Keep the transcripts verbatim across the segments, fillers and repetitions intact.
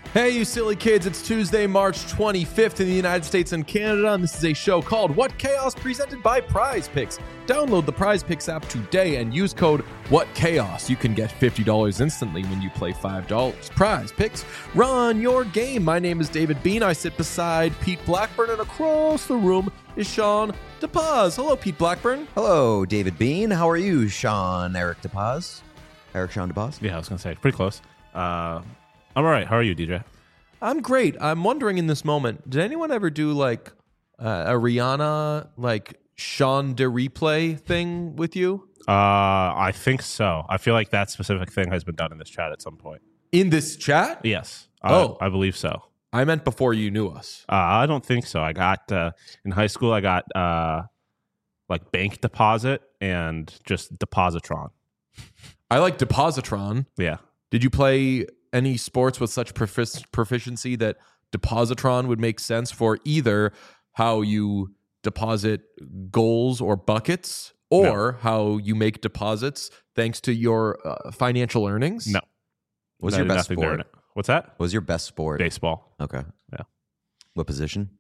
Hey, you silly kids, it's Tuesday, March twenty-fifth in the United States and Canada, and this is a show called What Chaos, presented by Prize Picks. Download the Prize Picks app today and use code WhatChaos. You can get fifty dollars instantly when you play five dollars. Prize Picks, run your game. My name is David Bean. I sit beside Pete Blackburn, and across the room is Sean DePaz. Hello, Pete Blackburn. Hello, David Bean. How are you, Sean Eric DePaz? Eric Sean DePaz? Yeah, I was going to say, pretty close. Uh, I'm all right. How are you, D J? I'm great. I'm wondering in this moment, did anyone ever do like uh, a Rihanna, like Sean de replay thing with you? Uh, I think so. I feel like that specific thing has been done in this chat at some point. In this chat? Yes. Oh. I, I believe so. I meant before you knew us. Uh, I don't think so. I got, uh, in high school, I got uh, like bank deposit and just Depositron. I like Depositron. Yeah. Did you play any sports with such profic- proficiency that Depositron would make sense for either how you deposit goals or buckets or No. how you make deposits thanks to your uh, financial earnings? No. What's I your did best nothing there. sport? What's that? What was your best sport? Baseball. Okay. Yeah. What position?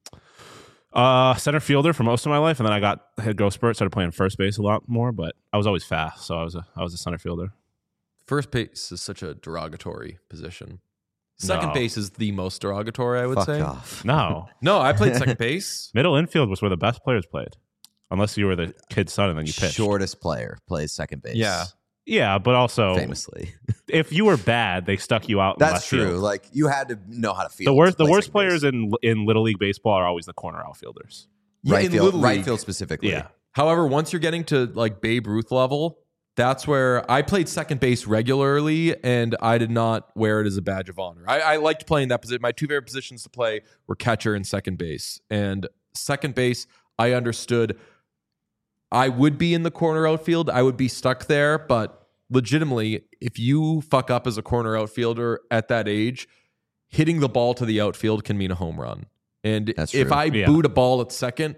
Uh, center fielder for most of my life, and then I got had growth spurt, started playing first base a lot more, but I was always fast, so I was a I was a center fielder. First base is such a derogatory position. Second No. base is the most derogatory, I would Fuck say. off. No. No, I played second base. Middle infield was where the best players played. Unless you were the kid's son and then you pitched. Shortest player plays second base. Yeah. Yeah, but also Famously. if you were bad, they stuck you out in That's left true. field. Like, you had to know how to feel. The worst to the play worst second players base. in in Little League baseball are always the corner outfielders. Yeah, right in field, Little right League. field specifically. Yeah. However, once you're getting to like Babe Ruth level, that's where I played second base regularly, and I did not wear it as a badge of honor. I, I liked playing that position. My two favorite positions to play were catcher and second base. And second base, I understood I would be in the corner outfield. I would be stuck there, but legitimately, if you fuck up as a corner outfielder at that age, hitting the ball to the outfield can mean a home run. And That's if true. I Yeah. boot a ball at second,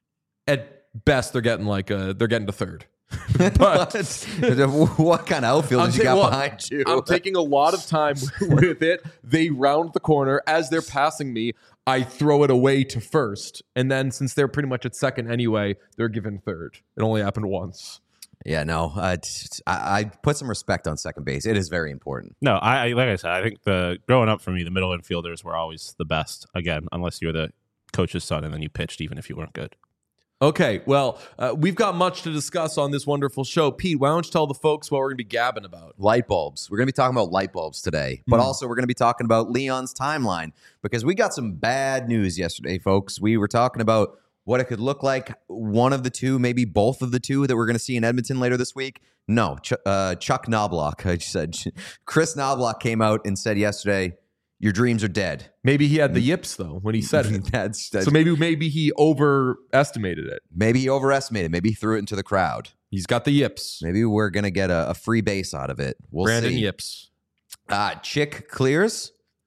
at best they're getting like a they're getting to third. But what kind of outfield I'm did you ta- got well, behind you? I'm taking a lot of time with it. They round the corner as they're passing me. I throw it away to first, and then since they're pretty much at second anyway, they're given third. It only happened once. Yeah, no. Uh, t- I, I put some respect on second base. It is very important. No, I, I like I said, I think the growing up for me, the middle infielders were always the best. Again, unless you were the coach's son and then you pitched even if you weren't good. Okay, well, uh, we've got much to discuss on this wonderful show. Pete, why don't you tell the folks what we're going to be gabbing about? Light bulbs. We're going to be talking about light bulbs today, but Hmm. also we're going to be talking about Leon's timeline because we got some bad news yesterday, folks. We were talking about what it could look like, one of the two, maybe both of the two that we're going to see in Edmonton later this week. No, Ch- uh, Chuck Knobloch, I just said, Chris Knobloch came out and said yesterday, your dreams are dead. Maybe he had the yips, though, when he said it. that's, that's So maybe maybe he overestimated it. maybe he overestimated. Maybe he threw it into the crowd. He's got the yips. Maybe we're going to get a, a free base out of it. We'll Brandon see. Yips. Uh, Chick clears.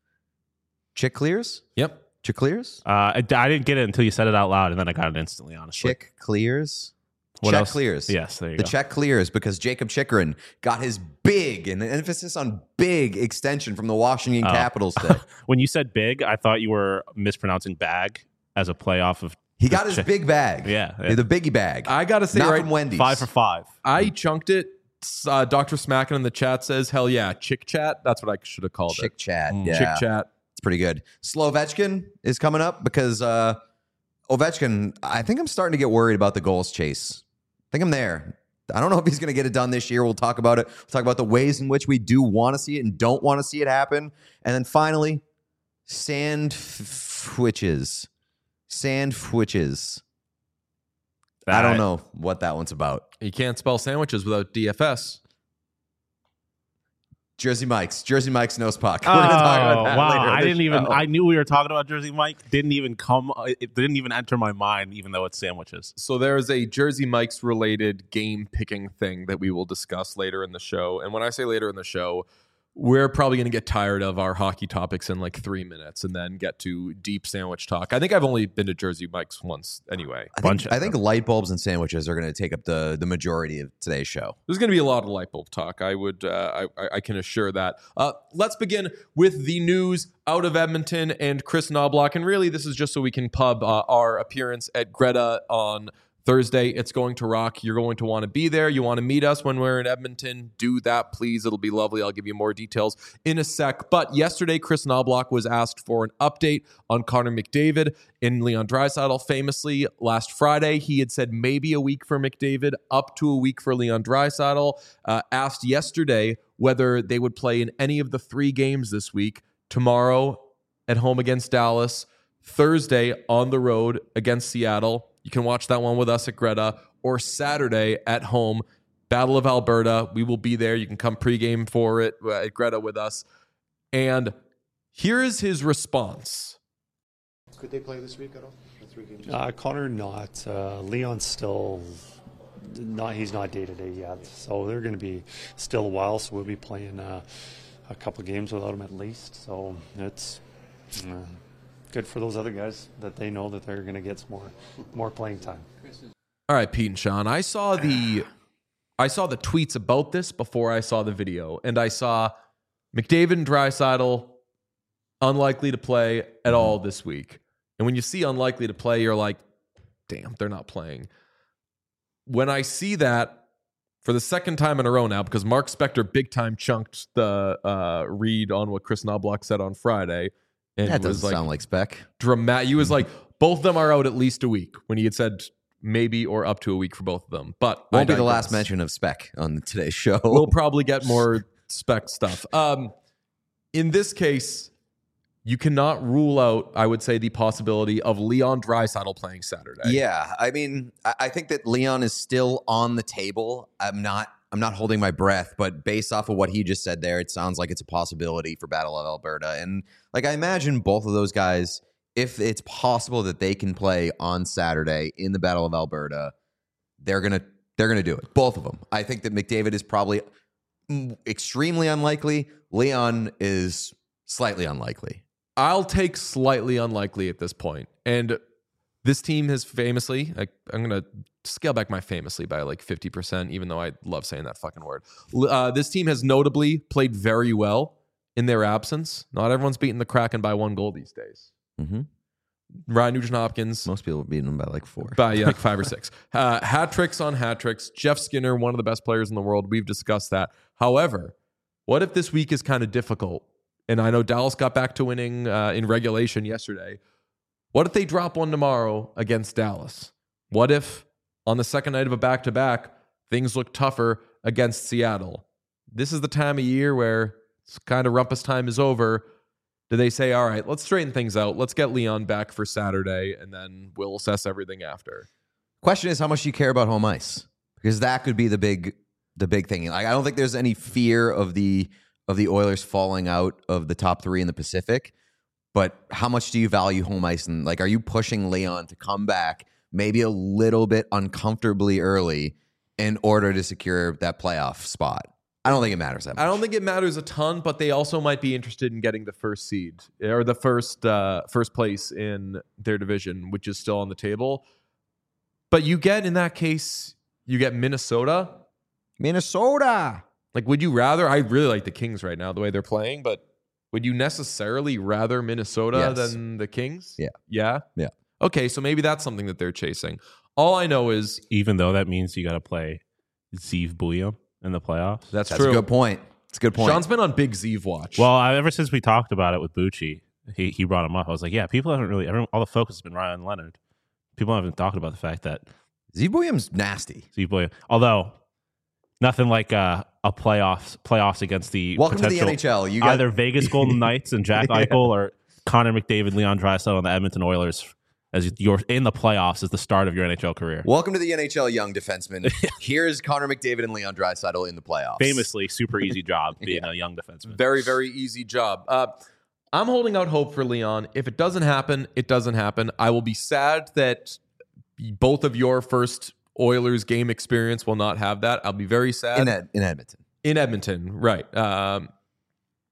Chick clears. Yep. Chick clears. Uh, I, I didn't get it until you said it out loud, and then I got it instantly, honestly. Chick clears. What check else? clears. Yes, there you The go. check clears because Jacob Chikrin got his big, and the emphasis on big extension from the Washington Oh. Capitals today. When you said big, I thought you were mispronouncing bag as a playoff of He got his Chick- big bag. Yeah, yeah. The biggie bag. I got to say Not right from Wendy's. five for five. I chunked it. Uh, Doctor Smackin in the chat says, hell yeah, chick chat. That's what I should have called Chick it. chat. Mm. Yeah. Chick chat. It's pretty good. Slovechkin is coming up because uh, Ovechkin, I think I'm starting to get worried about the goals chase. I think I'm there. I don't know if he's going to get it done this year. We'll talk about it. We'll talk about the ways in which we do want to see it and don't want to see it happen. And then finally, sandwiches. Sandwiches. I don't know what that one's about. You can't spell sandwiches without D F S. Jersey Mike's. Jersey Mike's knows puck. Oh, We're going to talk about that wow. later in I the didn't even, show. I knew we were talking about Jersey Mike. Didn't even come, it didn't even enter my mind, even though it's sandwiches. So there is a Jersey Mike's related game picking thing that we will discuss later in the show. And when I say later in the show, we're probably going to get tired of our hockey topics in like three minutes and then get to deep sandwich talk. I think I've only been to Jersey Mike's once anyway. I Bunch think, of I think light bulbs and sandwiches are going to take up the the majority of today's show. There's going to be a lot of light bulb talk. I would, uh, I, I can assure that. Uh, let's begin with the news out of Edmonton and Chris Knobloch. And really, this is just so we can pub uh, our appearance at Greta on Thursday. It's going to rock. You're going to want to be there. You want to meet us when we're in Edmonton. Do that, please. It'll be lovely. I'll give you more details in a sec. But yesterday, Chris Knobloch was asked for an update on Connor McDavid and Leon Draisaitl. Famously, last Friday, he had said maybe a week for McDavid, up to a week for Leon Draisaitl. Uh, asked yesterday whether they would play in any of the three games this week. Tomorrow at home against Dallas. Thursday on the road against Seattle. You can watch that one with us at Greta, or Saturday at home, Battle of Alberta. We will be there. You can come pregame for it at Greta with us. And here is his response. Could they play this week at all? The three games? Uh, Connor not. Uh, Leon's still not. He's not day to day yet, so they're going to be still a while. So we'll be playing uh, a couple of games without him at least. So it's. Uh, Good for those other guys that they know that they're going to get some more, more playing time. All right, Pete and Sean. I saw the, I saw the tweets about this before I saw the video, and I saw McDavid and Draisaitl unlikely to play at all this week. And when you see unlikely to play, you're like, damn, they're not playing. When I see that for the second time in a row now, because Mark Spector big time chunked the uh, read on what Chris Knobloch said on Friday. And That was doesn't like sound like spec. dramatic. He was like, both of them are out at least a week when he had said maybe or up to a week for both of them. But Won't I be the last digress. mention of spec on today's show. We'll probably get more spec stuff. Um, in this case, you cannot rule out, I would say, the possibility of Leon Draisaitl playing Saturday. Yeah, I mean, I, I think that Leon is still on the table. I'm not. I'm not holding my breath, but based off of what he just said there, it sounds like it's a possibility for Battle of Alberta. And like I imagine both of those guys, if it's possible that they can play on Saturday in the Battle of Alberta, they're gonna they're gonna do it. Both of them. I think that McDavid is probably extremely unlikely. Leon is slightly unlikely. I'll take slightly unlikely at this point. And this team has famously, like, I'm going to scale back my famously by like fifty percent, even though I love saying that fucking word. Uh, this team has notably played very well in their absence. Not everyone's beating the Kraken by one goal these days. Mm-hmm. Ryan Nugent-Hopkins. Most people are beating them by like four. By yeah, like five or six. Uh, hat tricks on hat tricks. Jeff Skinner, one of the best players in the world. We've discussed that. However, what if this week is kind of difficult? And I know Dallas got back to winning uh, in regulation yesterday. What if they drop one tomorrow against Dallas? What if on the second night of a back-to-back, things look tougher against Seattle? This is the time of year where it's kind of rumpus time is over. Do they say, all right, let's straighten things out. Let's get Leon back for Saturday, and then we'll assess everything after. Question is, how much do you care about home ice? Because that could be the big, the big thing. Like, I don't think there's any fear of the of the Oilers falling out of the top three in the Pacific. But how much do you value home ice? And like, are you pushing Leon to come back maybe a little bit uncomfortably early in order to secure that playoff spot? I don't think it matters that much. I don't think it matters a ton, but they also might be interested in getting the first seed or the first uh, first place in their division, which is still on the table. But you get, in that case, you get Minnesota. Minnesota. Like, would you rather? I really like the Kings right now, the way they're playing, but would you necessarily rather Minnesota Yes. than the Kings? Yeah. Yeah? Yeah. Okay, so maybe that's something that they're chasing. All I know is Even though that means you got to play Zeev Bouillon in the playoffs. that's, That's true. a good point. It's a good point. Sean's been on Big Zeev watch. Well, I, ever since we talked about it with Bucci, he he brought him up. I was like, yeah, people haven't really. Everyone, all the focus has been Ryan Leonard. People haven't talked about the fact that Z Williams nasty. Zeev Bouillon, although nothing like uh, a playoffs playoffs against the Welcome to the potential N H L. You got either Vegas Golden Knights and Jack Yeah. Eichel or Connor McDavid, Leon Draisaitl, and the Edmonton Oilers as you're in the playoffs as the start of your N H L career. Welcome to the N H L young defenseman. Here's Connor McDavid and Leon Draisaitl in the playoffs. Famously, super easy job being Yeah. a young defenseman. Very, very easy job. Uh, I'm holding out hope for Leon. If it doesn't happen, it doesn't happen. I will be sad that both of your first Oilers game experience will not have that. I'll be very sad. in Ed, in Edmonton. In Edmonton, right. Um,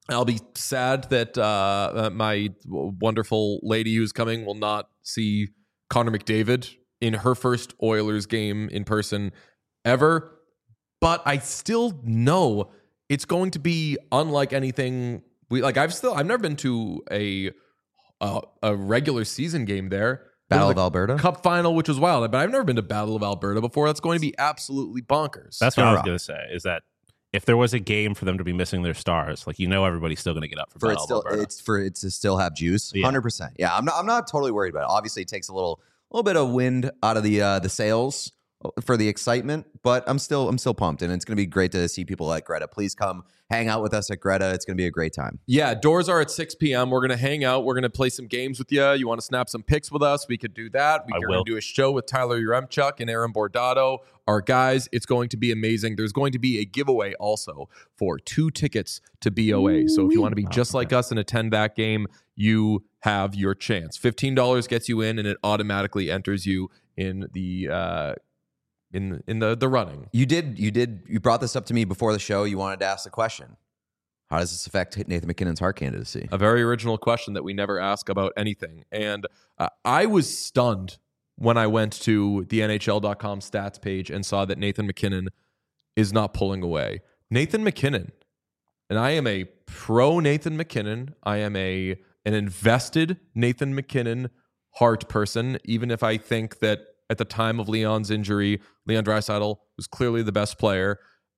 I'll be sad that uh, uh, my wonderful lady who's coming will not see Connor McDavid in her first Oilers game in person ever. But I still know it's going to be unlike anything we like. I've still I've never been to a a, a regular season game there. Battle of The Alberta? Cup final, which was wild. But I've never been to Battle of Alberta before. That's going to be absolutely bonkers. That's what I was Sure. going to say. Is that if there was a game for them to be missing their stars, like you know, everybody's still going to get up for, for it Battle of still Alberta. it's for it to still have juice. Yeah. Hundred percent. Yeah, I'm not. I'm not totally worried about it. Obviously, it takes a little, little bit of wind out of the uh, the sails for the excitement, but I'm still, I'm still pumped, and it's going to be great to see people at Greta. Please come hang out with us at Greta. It's going to be a great time. Yeah, doors are at six p.m. We're going to hang out. We're going to play some games with you. You want to snap some pics with us? We could do that. We I are will. going to do a show with Tyler Yaremchuk and Aaron Bordato, our guys. It's going to be amazing. There's going to be a giveaway also for two tickets to B O A. So if you want to be just like us and attend that game, you have your chance. fifteen dollars gets you in, and it automatically enters you in the uh, in in the the running. You did, you did, you brought this up to me before the show. You wanted to ask the question: how does this affect Nathan McKinnon's Hart candidacy? A very original question that we never ask about anything. And uh, I was stunned when I went to the N H L dot com stats page and saw that Nathan McKinnon is not pulling away. Nathan McKinnon, and I am a pro Nathan McKinnon. I am a an invested Nathan McKinnon Hart person, even if I think that at the time of Leon's injury, Leon Draisaitl was clearly the best player.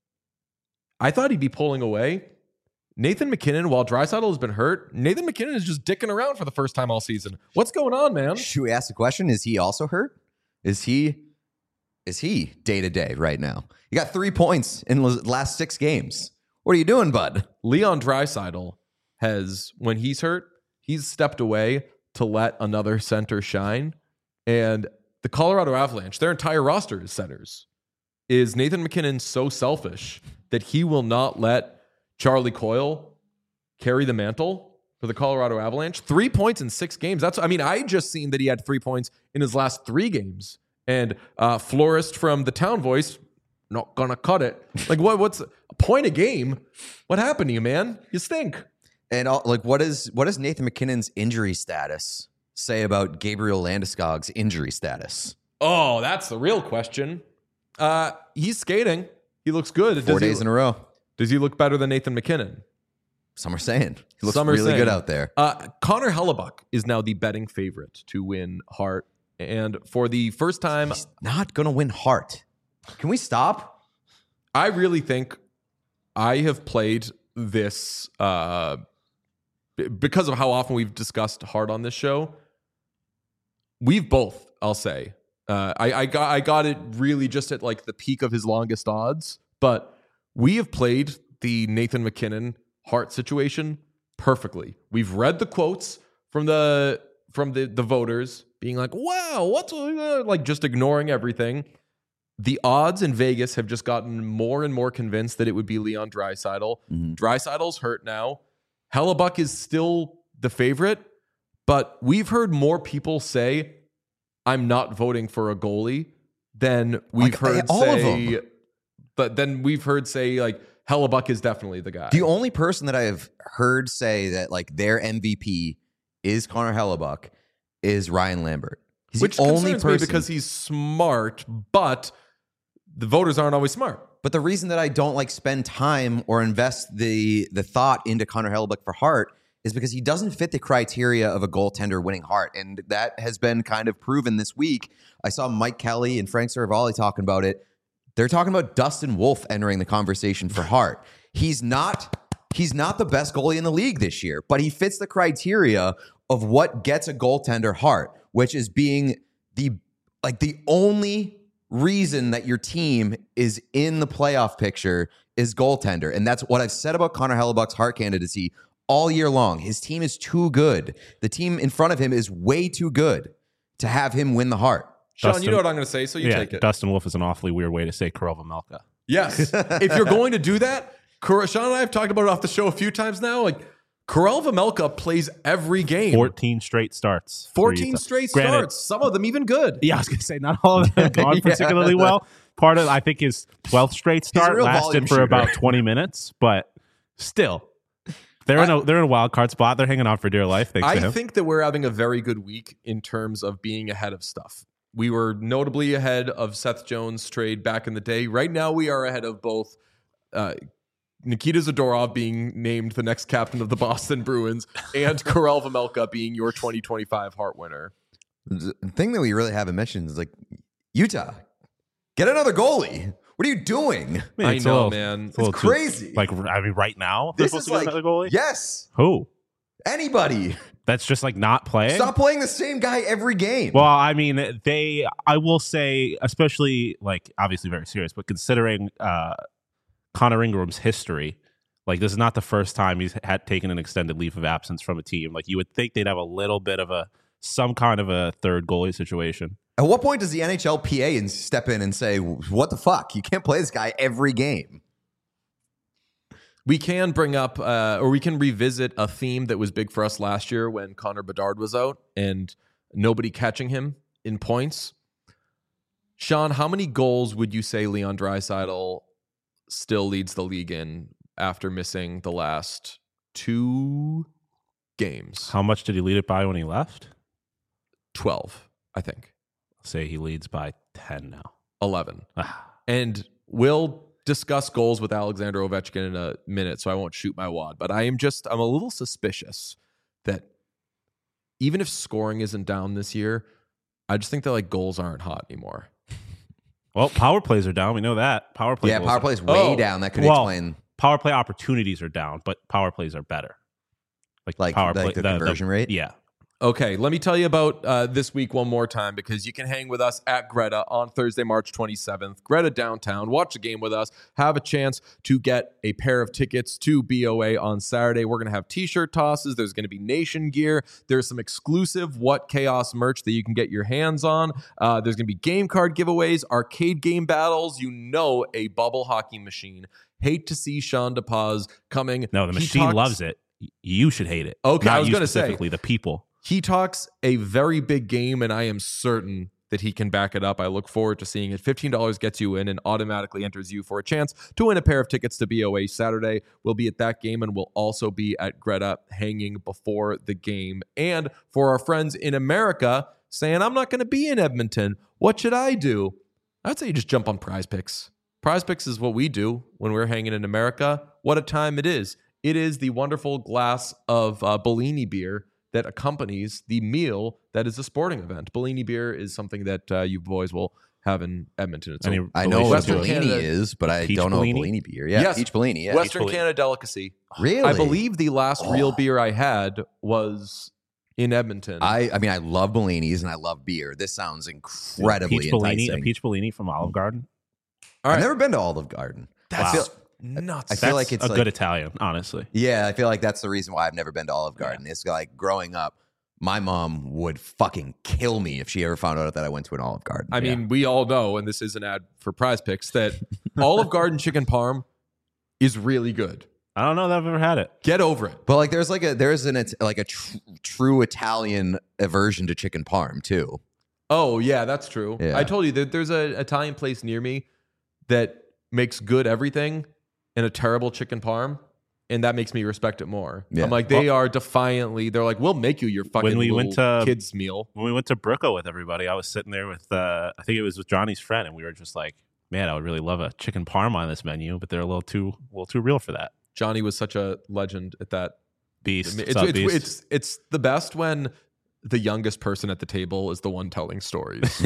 I thought he'd be pulling away. Nathan McKinnon, while Draisaitl has been hurt, Nathan McKinnon is just dicking around for the first time all season. What's going on, man? Should we ask the question? Is he also hurt? Is he is he day to day right now? You got three points in the last six games. What are you doing, bud? Leon Draisaitl has, when he's hurt, he's stepped away to let another center shine. And the Colorado Avalanche, their entire roster is centers. Is Nathan McKinnon so selfish that he will not let Charlie Coyle carry the mantle for the Colorado Avalanche? Three points in six games. That's, I mean, I just seen that he had three points in his last three games. And uh, Florist from the Town Voice, not gonna cut it. Like, what? What's a point a game? What happened to you, man? You stink. And all, like, what is what does Nathan McKinnon's injury status say about Gabriel Landeskog's injury status? Oh, that's the real question. Uh, he's skating. He looks good. Four Does he- days in a row. Does he look better than Nathan McKinnon? Some are saying he looks Some are really saying. good out there. Uh, Connor Hellebuck is now the betting favorite to win Hart. And for the first time, He's not gonna win Hart. Can we stop? I really think I have played this uh, b- because of how often we've discussed Hart on this show. We've both, I'll say. Uh, I, I got I got it really just at like the peak of his longest odds, but we have played the Nathan McKinnon Hart situation perfectly. We've read the quotes from the from the, the voters being like, wow, what's uh, like just ignoring everything. The odds in Vegas have just gotten more and more convinced that it would be Leon Draisaitl. Mhm. Draisaitl's hurt now. Hellebuck is still the favorite, but we've heard more people say, I'm not voting for a goalie than we've Like, heard all of say, them. but then we've heard say like Hellebuck is definitely the guy. The only person that I have heard say that like their M V P is Connor Hellebuck is Ryan Lambert. He's Which the only concerns person me because he's smart, but the voters aren't always smart. But the reason that I don't like spend time or invest the the thought into Connor Hellebuck for Hart is because he doesn't fit the criteria of a goaltender winning Hart. And that has been kind of proven this week. I saw Mike Kelly and Frank Saravalli talking about it. They're talking about Dustin Wolf entering the conversation for Hart. He's not he's not the best goalie in the league this year, but he fits the criteria of what gets a goaltender Hart, which is being the like the only reason that your team is in the playoff picture is goaltender. And that's what I've said about Connor Hellebuck's Hart candidacy all year long. His team is too good. The team in front of him is way too good to have him win the Hart. Sean, Dustin- you know what I'm going to say, so you yeah, take it. Dustin Wolf is an awfully weird way to say Karel Vejmelka. Yes. If you're going to do that, Kar- Sean and I have talked about it off the show a few times now. Like, Karel Vejmelka plays every game. fourteen straight starts. for fourteen Utah. straight Granted, starts. Some of them even good. Yeah, I was going to say, not all of them have gone Yeah. particularly well. Part of, I think, his twelfth straight a start real lasted volume for shooter. about twenty minutes, but still, They're in a they're in a wild card spot. They're hanging on for dear life. Thanks to I him. think that we're having a very good week in terms of being ahead of stuff. We were notably ahead of Seth Jones' trade back in the day. Right now, we are ahead of both uh, Nikita Zadorov being named the next captain of the Boston Bruins and Karel Vejmelka being your twenty twenty-five Hart winner. The thing that we really haven't mentioned is like Utah, get another goalie. What are you doing? mean, I it's a know, little- man. it's a little It's too- crazy. like, I mean, right now, they're This supposed is to get like another goalie. yes, Who? anybody. That's just like not playing. Stop playing the same guy every game. Well, I mean, they. I will say, especially like obviously very serious, but considering uh, Connor Ingram's history, like this is not the first time he's had taken an extended leave of absence from a team. Like you would think they'd have a little bit of a some kind of a third goalie situation. At what point does the N H L P A and step in and say, "What the fuck? You can't play this guy every game." We can bring up, uh, or we can revisit a theme that was big for us last year when Connor Bedard was out and nobody catching him in points. Sean, how many goals would you say Leon Draisaitl still leads the league in after missing the last two games? How much did he lead it by when he left? twelve, I think. Say he leads by ten now. eleven. Ah. And we'll discuss goals with Alexander Ovechkin in a minute, so I won't shoot my wad. But I am just, I'm a little suspicious that even if scoring isn't down this year, I just think that like goals aren't hot anymore. Well, power plays are down. We know that. Power plays. Yeah, goals power are- plays way Oh, down. That could well, explain Power play opportunities are down, but power plays are better. Like, Like- power like play, the conversion rate? Yeah. Okay, let me tell you about uh, this week one more time because you can hang with us at Greta on Thursday, March twenty-seventh. Greta downtown, watch a game with us, have a chance to get a pair of tickets to B O A on Saturday. We're going to have t-shirt tosses. There's going to be Nation gear. There's some exclusive What Chaos merch that you can get your hands on. Uh, there's going to be game card giveaways, arcade game battles. You know, a bubble hockey machine. Hate to see Sean DePaz coming. No, the He machine talks- loves it. Y- You should hate it. Okay, Not I was you gonna say. specifically the people. He talks a very big game, and I am certain that he can back it up. I look forward to seeing it. fifteen dollars gets you in and automatically enters you for a chance to win a pair of tickets to B O A Saturday. We'll be at that game, and we'll also be at Greta hanging before the game. And for our friends in America saying, I'm not going to be in Edmonton, what should I do? I'd say you just jump on Prize Picks. Prize Picks is what we do when we're hanging in America. What a time it is. It is the wonderful glass of uh, Bellini beer that accompanies the meal that is a sporting event. Bellini beer is something that uh, you boys will have in Edmonton. It's Any a I know relation what Western to it? Bellini Canada- is, but I Peach don't know Bellini? what Bellini beer. Yeah, Yes. peach Bellini. Yeah, Western Bellini. Canada delicacy. really. I believe the last real Oh. beer I had was in Edmonton. I, I mean, I love Bellinis and I love beer. This sounds incredibly peach Bellini, a enticing. peach Bellini from Olive Garden. All right. I've never been to Olive Garden. That's I feel, nuts. I feel That's like it's a like- good Italian, honestly. yeah, I feel like that's the reason why I've never been to Olive Garden. It's like growing up, my mom would fucking kill me if she ever found out that I went to an Olive Garden. I mean, we all know, and this is an ad for Prize Picks, that Olive Garden chicken parm is really good. I don't know that I've ever had it. Get over it. but like, there's like a there's an it's like a tr- true Italian aversion to chicken parm too. Oh, yeah, that's true. Yeah. I told you that there's an Italian place near me that makes good everything and a terrible chicken parm, and that makes me respect it more. Yeah. I'm like, they are defiantly, they're like, we'll make you your fucking When we little went to- kids meal. When we went to Brooklyn with everybody, I was sitting there with, uh, I think it was with Johnny's friend, and we were just like, man, I would really love a chicken parm on this menu, but they're a little too, a little too real for that. Johnny was such a legend at that. Beast. It's, What's up, it's, Beast? it's, it's the best when the youngest person at the table is the one telling stories.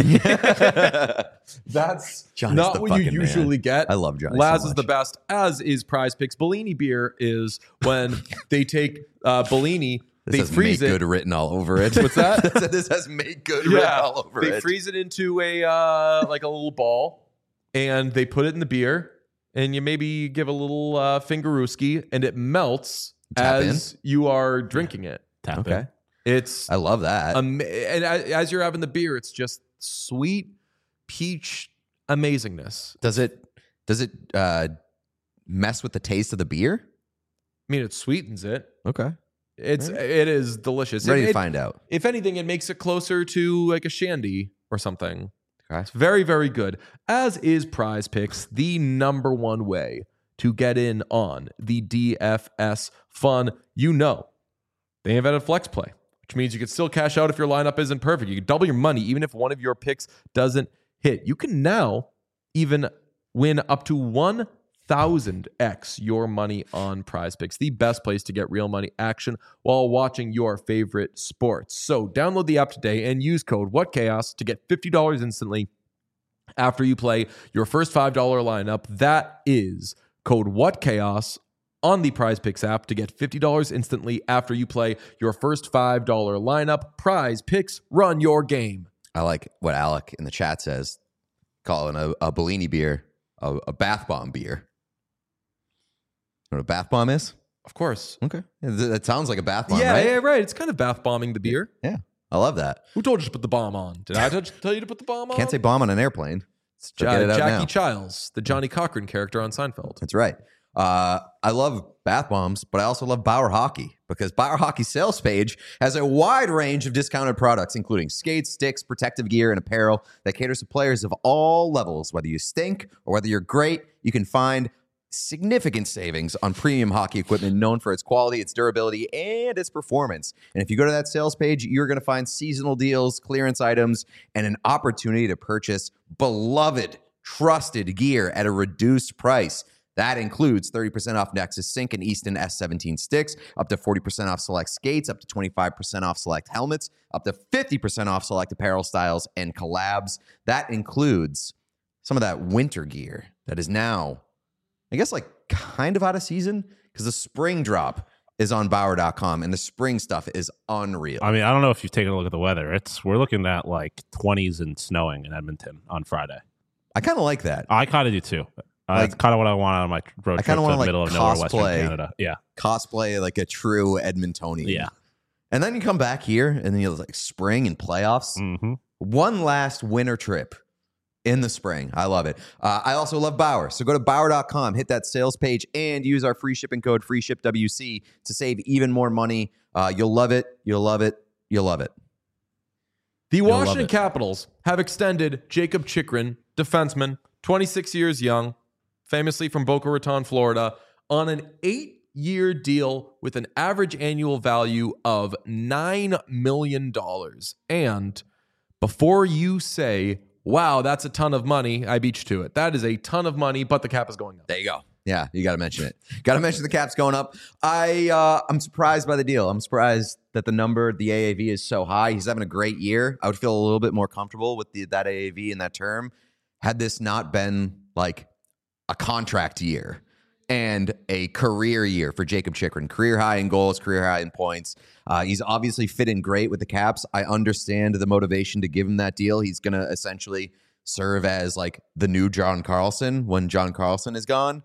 That's Johnny's not the what you fucking man. usually get. I love Johnny Laz so is the much. best, as is Prize Picks. Bellini beer is when they take uh, Bellini, This they has freeze "make it. good" written all over it. What's that? This has "make good" written Yeah, all over they it. freeze it into a uh, like a little ball, and they put it in the beer, and you maybe give a little uh, fingerooski, and it melts Tap as you are drinking it. Tap okay, in. It's I love that. Ama- and a- as you're having the beer, it's just sweet peach amazingness. does it does it uh, mess with the taste of the beer? I mean, it sweetens it. Okay, It's it is delicious. ready It- to it- find out. If anything, it makes it closer to like a shandy or something. Okay. It's very very good. As is Prize Picks, the number one way to get in on the D F S fun. You know, they invented Flex Play, which means you can still cash out if your lineup isn't perfect. You can double your money even if one of your picks doesn't hit. You can now even win up to one thousand x your money on Prize Picks, the best place to get real money action while watching your favorite sports. So download the app today and use code WhatChaos to get fifty dollars instantly after you play your first five dollars lineup. That is code WhatChaos on the Prize Picks app to get fifty dollars instantly after you play your first five dollars lineup. Prize Picks, run your game. I like what Alec in the chat says, calling a, a Bellini beer a, a bath bomb beer. You know what a bath bomb is? Of course. Okay. That sounds like a bath bomb, Yeah, right? yeah, right. It's kind of bath bombing the beer. Yeah. I love that. Who told you to put the bomb on? Did I t- tell you to put the bomb on? Can't say bomb on an airplane. So Ja- get it out Jackie now. Childs, the Johnny Cochran character on Seinfeld. That's right. Uh, I love bath bombs, but I also love Bauer Hockey because Bauer Hockey's sales page has a wide range of discounted products, including skates, sticks, protective gear, and apparel that caters to players of all levels. Whether you stink or whether you're great, you can find significant savings on premium hockey equipment known for its quality, its durability, and its performance. And if you go to that sales page, you're going to find seasonal deals, clearance items, and an opportunity to purchase beloved, trusted gear at a reduced price. That includes thirty percent off Nexus Sync and Easton S seventeen sticks, up to forty percent off select skates, up to twenty-five percent off select helmets, up to fifty percent off select apparel styles and collabs. That includes some of that winter gear that is now, I guess, like kind of out of season because the spring drop is on Bauer dot com and the spring stuff is unreal. I mean, I don't know if you've taken a look at the weather. It's we're looking at like twenties and snowing in Edmonton on Friday. I kind of like that. I kind of do too. Uh, Like- that's kind of what I want on my road I trip kinda to wanna, the like, middle of nowhere, Western cosplay. Canada. Yeah, Cosplay like a true Edmontonian. yeah. And then you come back here and then you like spring and playoffs. hmm One last winter trip in the spring. I love it. Uh, I also love Bauer. So go to Bauer dot com, hit that sales page, and use our free shipping code FreeShipWC to save even more money. Uh, you'll love it. You'll love it. You'll love it. The love Washington it. Capitals have extended Jacob Chikrin, defenseman, twenty-six years young, famously from Boca Raton, Florida, on an eight-year deal with an average annual value of nine million dollars. And before you say, wow, that's a ton of money, I beat you to it. That is a ton of money, but the cap is going up. There you go. Yeah, you got to mention it. Got to mention the cap's going up. I uh, I'm surprised by the deal. I'm surprised that the number, the A A V, is so high. He's having a great year. I would feel a little bit more comfortable with the, that A A V and that term had this not been like a contract year and a career year for Jacob Chikrin. Career high in goals, career high in points. Uh, he's obviously fit in great with the Caps. I understand the motivation to give him that deal. He's going to essentially serve as like the new John Carlson when John Carlson is gone.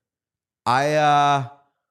I, uh,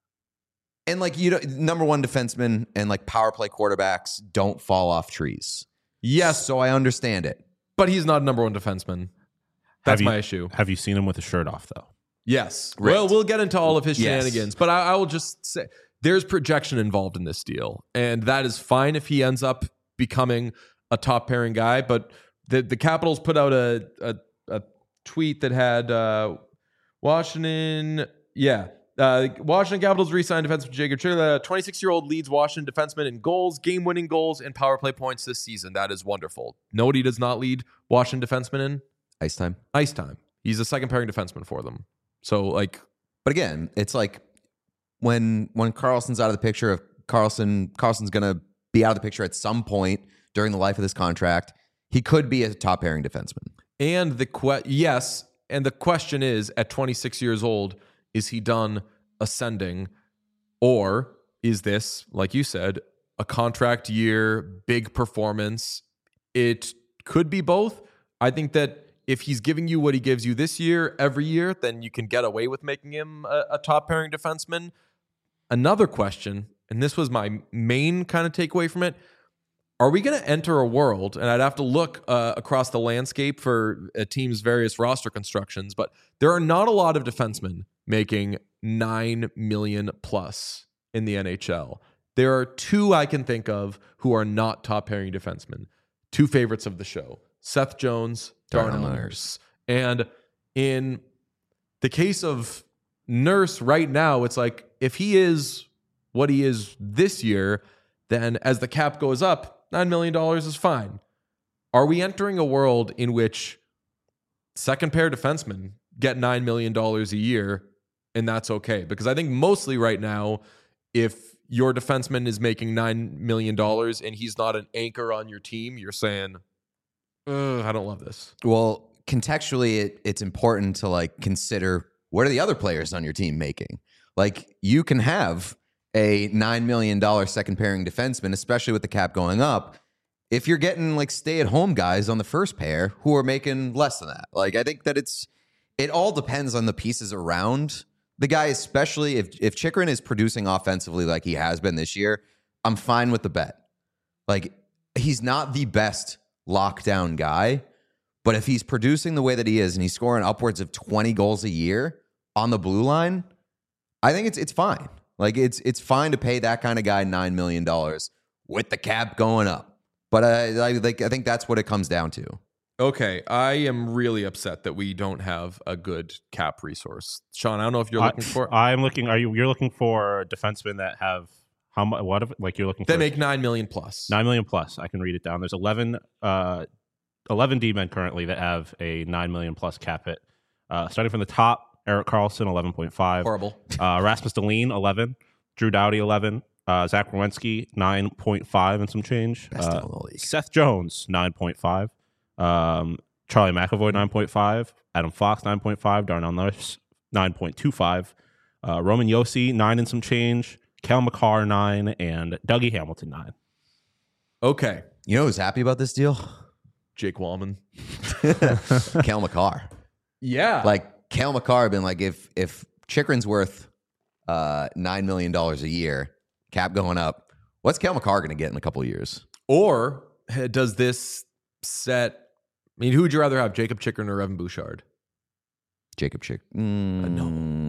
and like, you know, number one defenseman and like power play quarterbacks don't fall off trees. Yes, So I understand it. but he's not a number one defenseman. That's Have you- my issue. Have you seen him with a shirt off though? Yes. Right. Well, we'll get into all of his Yes. shenanigans, but I, I will just say there's projection involved in this deal, and that is fine if he ends up becoming a top pairing guy. But the the Capitals put out a a, a tweet that had uh, Washington, yeah. Uh, Washington Capitals re-signed defenseman Jacob Chikrin. twenty-six-year-old leads Washington defenseman in goals, game-winning goals, and power play points this season. That is wonderful. No, what he does not lead Washington defenseman in Ice time. ice time. He's a second pairing defenseman for them. So, like, But again, it's like when when Carlson's out of the picture, if Carlson Carlson's going to be out of the picture at some point during the life of this contract, he could be a top pairing defenseman. and the que- yes, and the question is, at twenty-six years old, is he done ascending, or is this, like you said, a contract year, big performance? It could be both. I think that if he's giving you what he gives you this year, every year, then you can get away with making him a, a top pairing defenseman. Another question, and this was my main kind of takeaway from it. Are we going to enter a world, and I'd have to look uh, across the landscape for a team's various roster constructions, but there are not a lot of defensemen making nine million plus in the N H L. There are two I can think of who are not top pairing defensemen. Two favorites of the show, Seth Jones, Darnell Darnell Nurse. Nurse. And in the case of Nurse right now, it's like if he is what he is this year, then as the cap goes up, nine million dollars is fine. Are we entering a world in which second pair defensemen get nine million dollars a year and that's okay? Because I think mostly right now, if your defenseman is making nine million dollars and he's not an anchor on your team, you're saying, I don't love this. Well, contextually, it, it's important to like consider what are the other players on your team making? Like you can have a nine million dollars second pairing defenseman, especially with the cap going up, if you're getting like stay at home guys on the first pair who are making less than that. Like I think that it's, it all depends on the pieces around the guy, especially if, if Chychrun is producing offensively like he has been this year, I'm fine with the bet. Like he's not the best lockdown guy, but if he's producing the way that he is and he's scoring upwards of twenty goals a year on the blue line, I think it's it's fine. Like it's it's fine to pay that kind of guy nine million dollars with the cap going up. But I, I like I think that's what it comes down to. Okay, I am really upset that we don't have a good cap resource. Sean, I don't know if you're looking I, for. I'm looking. Are you? You're looking for defensemen that have how much? What? If, like you're looking They for make nine million plus. nine million plus. I can read it down. There's eleven, uh, eleven D-men currently that have a nine million plus cap hit. Uh, starting from the top, Erik Karlsson, eleven point five. Horrible. Uh, Rasmus Dahlin, eleven. Drew Doughty, eleven. Uh, Zach Werenski, nine point five and some change. Best Uh, in the league. Seth Jones, nine point five. Um, Charlie McAvoy, nine point five. Adam Fox, nine point five. Darnell Nurse, nine point two five. Uh, Roman Josi, nine and some change. Cal McCarr, nine. And Dougie Hamilton, nine. Okay, You know who's happy about this deal? Jake Wallman. Cal McCarr. Yeah, Like Cal McCarr been like, if if Chychrun's worth uh, nine million dollars a year, cap going up, what's Cal McCarr going to get in a couple of years? or eh, does this set? I mean, who would you rather have, Jacob Chychrun or Evan Bouchard? Jacob Chychrun. Mm,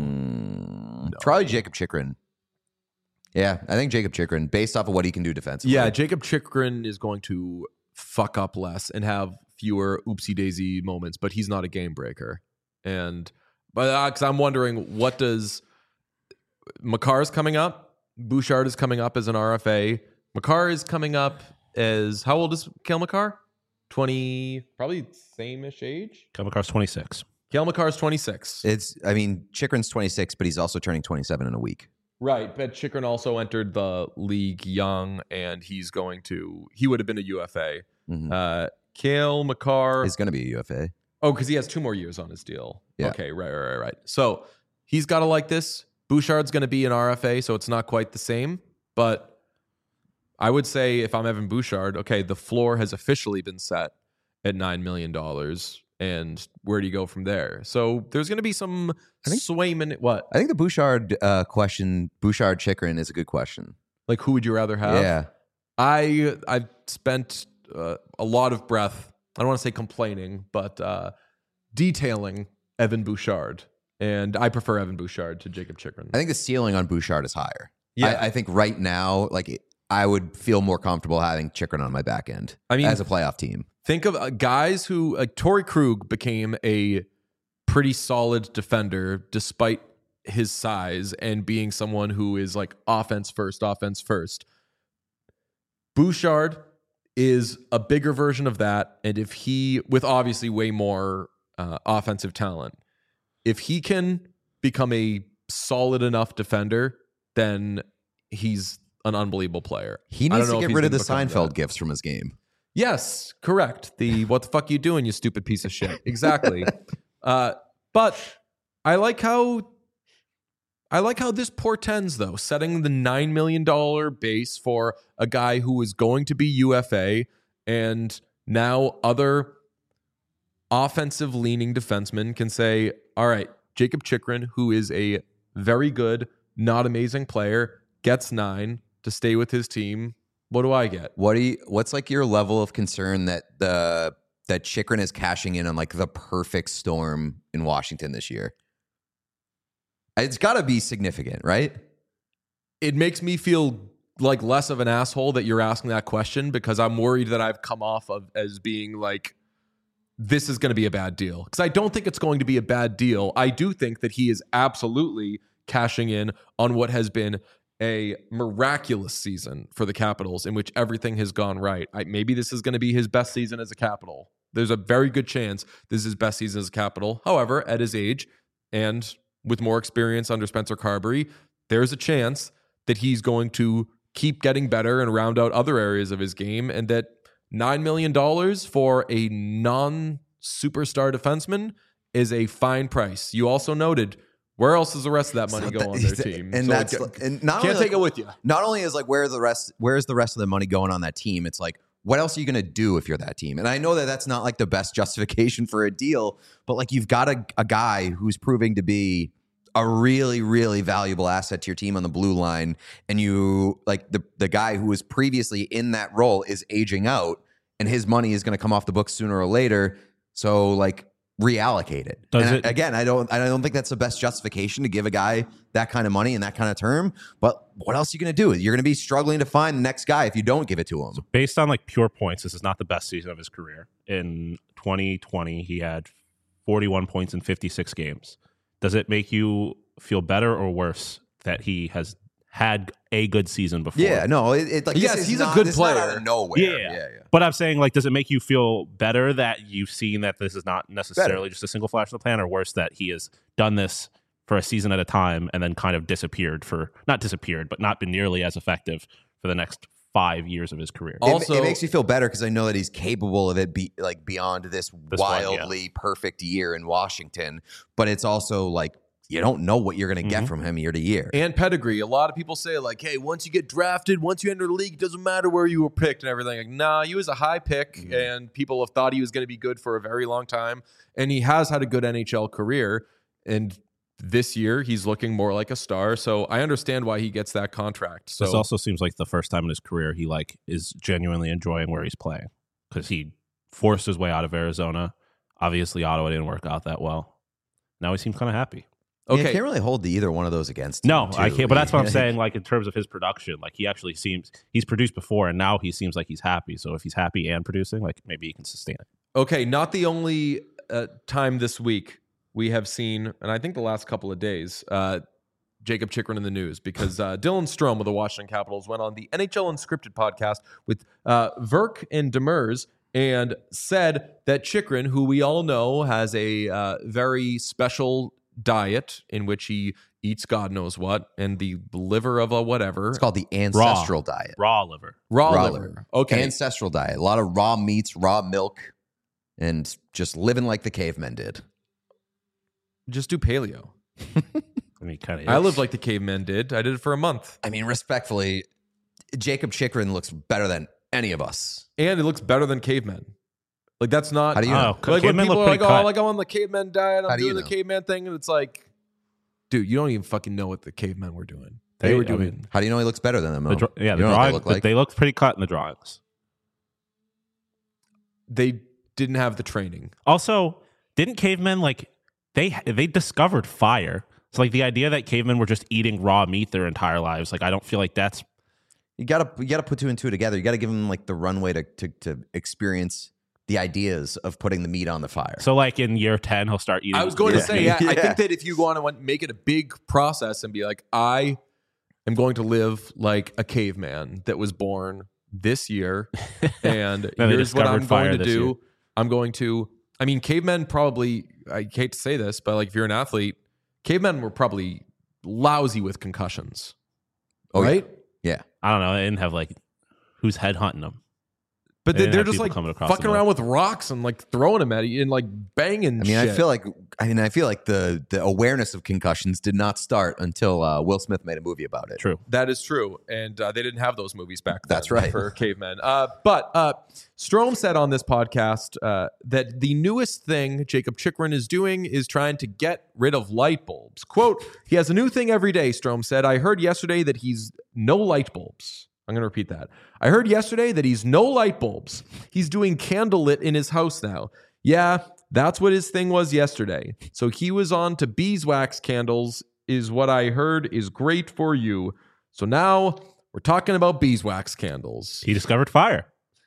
no. Probably Jacob Chychrun. Yeah, I think Jacob Chychrun, based off of what he can do defensively. Yeah, Jacob Chychrun is going to fuck up less and have fewer oopsie daisy moments, but he's not a game breaker. And but because uh, I'm wondering, what does McCarr's coming up? Bouchard is coming up as an R F A. McCarr is coming up as, how old is Cale McCarr? twenty, probably same-ish age. Cal McCarr's twenty-six. Cale McCarr's twenty-six. It's, I mean, Chychrun's twenty-six, but he's also turning twenty-seven in a week. Right, but Chychrun also entered the league young, and he's going to, he would have been a U F A. Mm-hmm. Uh, Cale McCarr. He's going to be a U F A. Oh, because he has two more years on his deal. Yeah. Okay, right, right, right, right. So he's got to like this. Bouchard's going to be an R F A, so it's not quite the same. But I would say if I'm Evan Bouchard, okay, the floor has officially been set at nine million dollars. And where do you go from there? So there's going to be some I think- swayment. What? I think the Bouchard uh, question, Bouchard Chychrun, is a good question. Like, who would you rather have? Yeah. I I've spent uh, a lot of breath. I don't want to say complaining, but uh, detailing Evan Bouchard, and I prefer Evan Bouchard to Jacob Chychrun. I think the ceiling on Bouchard is higher. Yeah. I, I think right now, like it, I would feel more comfortable having Chychrun on my back end. I mean, as a playoff team. Think of uh, guys who, like Torrey Krug, became a pretty solid defender despite his size and being someone who is like offense first, offense first. Bouchard is a bigger version of that, and if he, with obviously way more uh, offensive talent, if he can become a solid enough defender, then he's an unbelievable player. He I don't needs know to if get he's rid of gonna the become Seinfeld that. gifts from his game. Yes, correct. The what the fuck you doing, you stupid piece of shit. Exactly. uh, but I like how I like how this portends, though, setting the nine million dollars base for a guy who is going to be U F A, and now other offensive leaning defensemen can say, all right, Jacob Chychrun, who is a very good, not amazing player, gets nine to stay with his team. What do I get? What do you? What's like your level of concern that the that Chychrun is cashing in on like the perfect storm in Washington this year? It's got to be significant, right? It makes me feel like less of an asshole that you're asking that question, because I'm worried that I've come off of as being like this is going to be a bad deal. Because I don't think it's going to be a bad deal. I do think that he is absolutely cashing in on what has been a miraculous season for the Capitals in which everything has gone right. I, maybe this is going to be his best season as a Capital. There's a very good chance this is his best season as a Capital. However, at his age and with more experience under Spencer Carberry, there's a chance that he's going to keep getting better and round out other areas of his game, and that nine million dollars for a non-superstar defenseman is a fine price. You also noted, where else does the rest of that money So go that- on their team? And So that's it ca- and not can't only take like- it with you. Not only is like where the rest where's the rest of the money going on that team, it's like, what else are you going to do if you're that team? And I know that that's not like the best justification for a deal, but like you've got a, a guy who's proving to be a really, really valuable asset to your team on the blue line. And you like the, the guy who was previously in that role is aging out, and his money is going to come off the books sooner or later. So like reallocate it. Does And it- I- again, I don't I don't think that's the best justification to give a guy that kind of money and that kind of term. But what else are you going to do? You're going to be struggling to find the next guy if you don't give it to him. Based on like pure points, this is not the best season of his career. In twenty twenty, he had forty-one points in fifty-six games. Does it make you feel better or worse that he has had a good season before? Yeah, no, it, it like Yes, this is he's a not- good this is not out player. of nowhere. Yeah. yeah, yeah. But I'm saying, like, does it make you feel better that you've seen that this is not necessarily just a single flash in the pan, or worse that he has done this for a season at a time and then kind of disappeared for, not disappeared, but not been nearly as effective for the next five years of his career? It- Also- it, makes me feel better because I know that he's capable of it, be like beyond this, This one, yeah. wildly perfect year in Washington. But it's also like you don't know what you're going to get Mhm. from him year to year. And pedigree. A lot of people say, like, hey, once you get drafted, once you enter the league, it doesn't matter where you were picked and everything. Like, nah, he was a high pick, Mm-hmm. and people have thought he was going to be good for a very long time. And he has had a good N H L career. And this year, he's looking more like a star. So I understand why he gets that contract. So This also seems like the first time in his career he like is genuinely enjoying where he's playing, because he forced his way out of Arizona. Obviously, Ottawa didn't work out that well. Now he seems kind of happy. Yeah, okay. I can't really hold the either one of those against him. No, I too. can't. But that's what I'm Yeah. saying. Like in terms of his production, like he actually seems he's produced before, and now he seems like he's happy. So if he's happy and producing, like maybe he can sustain it. Okay, not the only uh, time this week we have seen, and I think the last couple of days, uh, Jacob Chikrin in the news, because uh, Dylan Strome of the Washington Capitals went on the N H L Unscripted podcast with uh, Verk and Demers and said that Chikrin, who we all know has a uh, very special diet in which he eats God knows what, and the liver of a whatever. It's called the ancestral diet. Raw liver. raw, raw liver. liver. Okay. Ancestral diet. A lot of raw meats, raw milk, and just living like the cavemen did. Just do paleo. I mean, kind of. I lived like the cavemen did. I did it for a month. I mean, respectfully, Jacob Chikrin looks better than any of us. And it looks better than cavemen. Like, that's not. How do you know? Oh, Like when cavemen people look are like, pretty oh, cut. like I'm on the caveman diet, How I'm do you doing the know? caveman thing, and it's like, dude, you don't even fucking know what the cavemen were doing. They, They- were I doing. mean, How do you know he looks better than them? The Mo? dra- yeah, You the know what drawing, they look like? they looked pretty cut in the drawings. they didn't have the training. Also, didn't cavemen like they they discovered fire? So like the idea that cavemen were just eating raw meat their entire lives, like I don't feel like that's You gotta you gotta put two and two together. You gotta give them like the runway to to, to experience the ideas of putting the meat on the fire. so. Like in year ten, he'll start eating. I was going Yeah. to say, yeah, I Yeah. think that if you want to make it a big process and be like, I am going to live like a caveman that was born this year, and Then they here's what I'm discovered fire going to this do. year. I'm going to. I mean, cavemen probably. I hate to say this, but like if you're an athlete, cavemen were probably lousy with concussions. Oh, yeah. right? Yeah. I don't know. They didn't have like who's headhunting them. But They they, didn't they're have just people like coming across fucking the around with rocks and like throwing them at you and like banging. I mean, I shit. feel like I mean, I feel like the the awareness of concussions did not start until uh, Will Smith made a movie about it. True. that is true, and uh, they didn't have those movies back then. That's right. for cavemen. Uh, but uh, Strome said on this podcast uh, that the newest thing Jacob Chikrin is doing is trying to get rid of light bulbs. Quote: "He has a new thing every day." Strome said, "I heard yesterday that he's no light bulbs." I'm going to repeat that. I heard yesterday that he's no light bulbs. He's doing candlelit in his house now. Yeah, that's what his thing was yesterday. So he was on to beeswax candles, is what I heard is great for you. So now we're talking about beeswax candles. He discovered fire.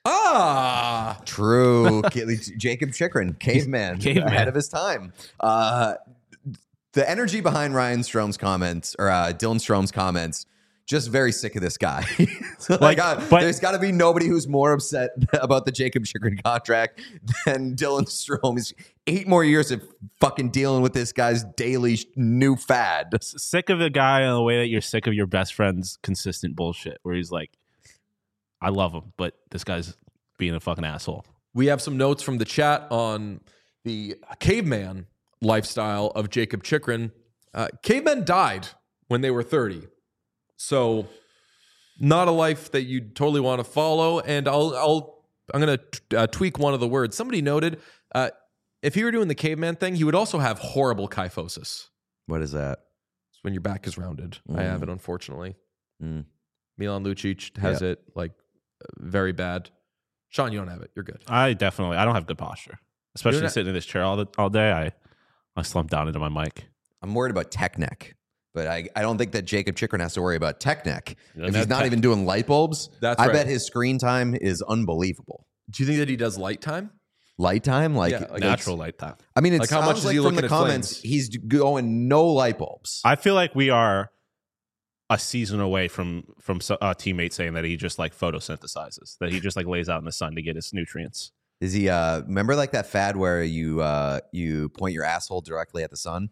Ah, True. Jacob Chikrin, caveman, Caveman. ahead of his time. Uh, the energy behind Ryan Strome's comments, or uh, Dylan Strome's comments, just very sick of this guy. So, like, Like, uh, but- there's got to be nobody who's more upset about the Jacob Chikrin contract than Dylan Strome. He's eight more years of fucking dealing with this guy's daily sh- new fad. Sick of the guy in the way that you're sick of your best friend's consistent bullshit, where he's like, I love him, but this guy's being a fucking asshole. we have some notes from the chat on the caveman lifestyle of Jacob Chikrin. Uh, cavemen died when they were thirty. So not a life that you totally want to follow. And I'll, I'll, I'm going to uh, tweak one of the words. Somebody noted, uh, if he were doing the caveman thing, he would also have horrible kyphosis. What is that? It's when your back is rounded. I have it, unfortunately. Mm. Milan Lucic has Yeah. it, like, uh, very bad. Sean, you don't have it. You're good. I definitely, I don't have good posture, especially You're not- sitting in this chair all the, all day. I, I slump down into my mic. I'm worried about tech neck, but I, I don't think that Jacob Chikrin has to worry about tech neck. doesn't If he's have not tech- even doing light bulbs, That's I right. bet his screen time is unbelievable. Do you think that he does light time? Light time, like, Yeah, like like- Natural light time. I mean, it Like, how sounds much is like he from the looking at comments flames? he's going no light bulbs. I feel like we are a season away from from so- a teammate saying that he just like photosynthesizes, that he just like lays out in the sun to get his nutrients. Is he? Uh, remember like that fad where you uh, you point your asshole directly at the sun?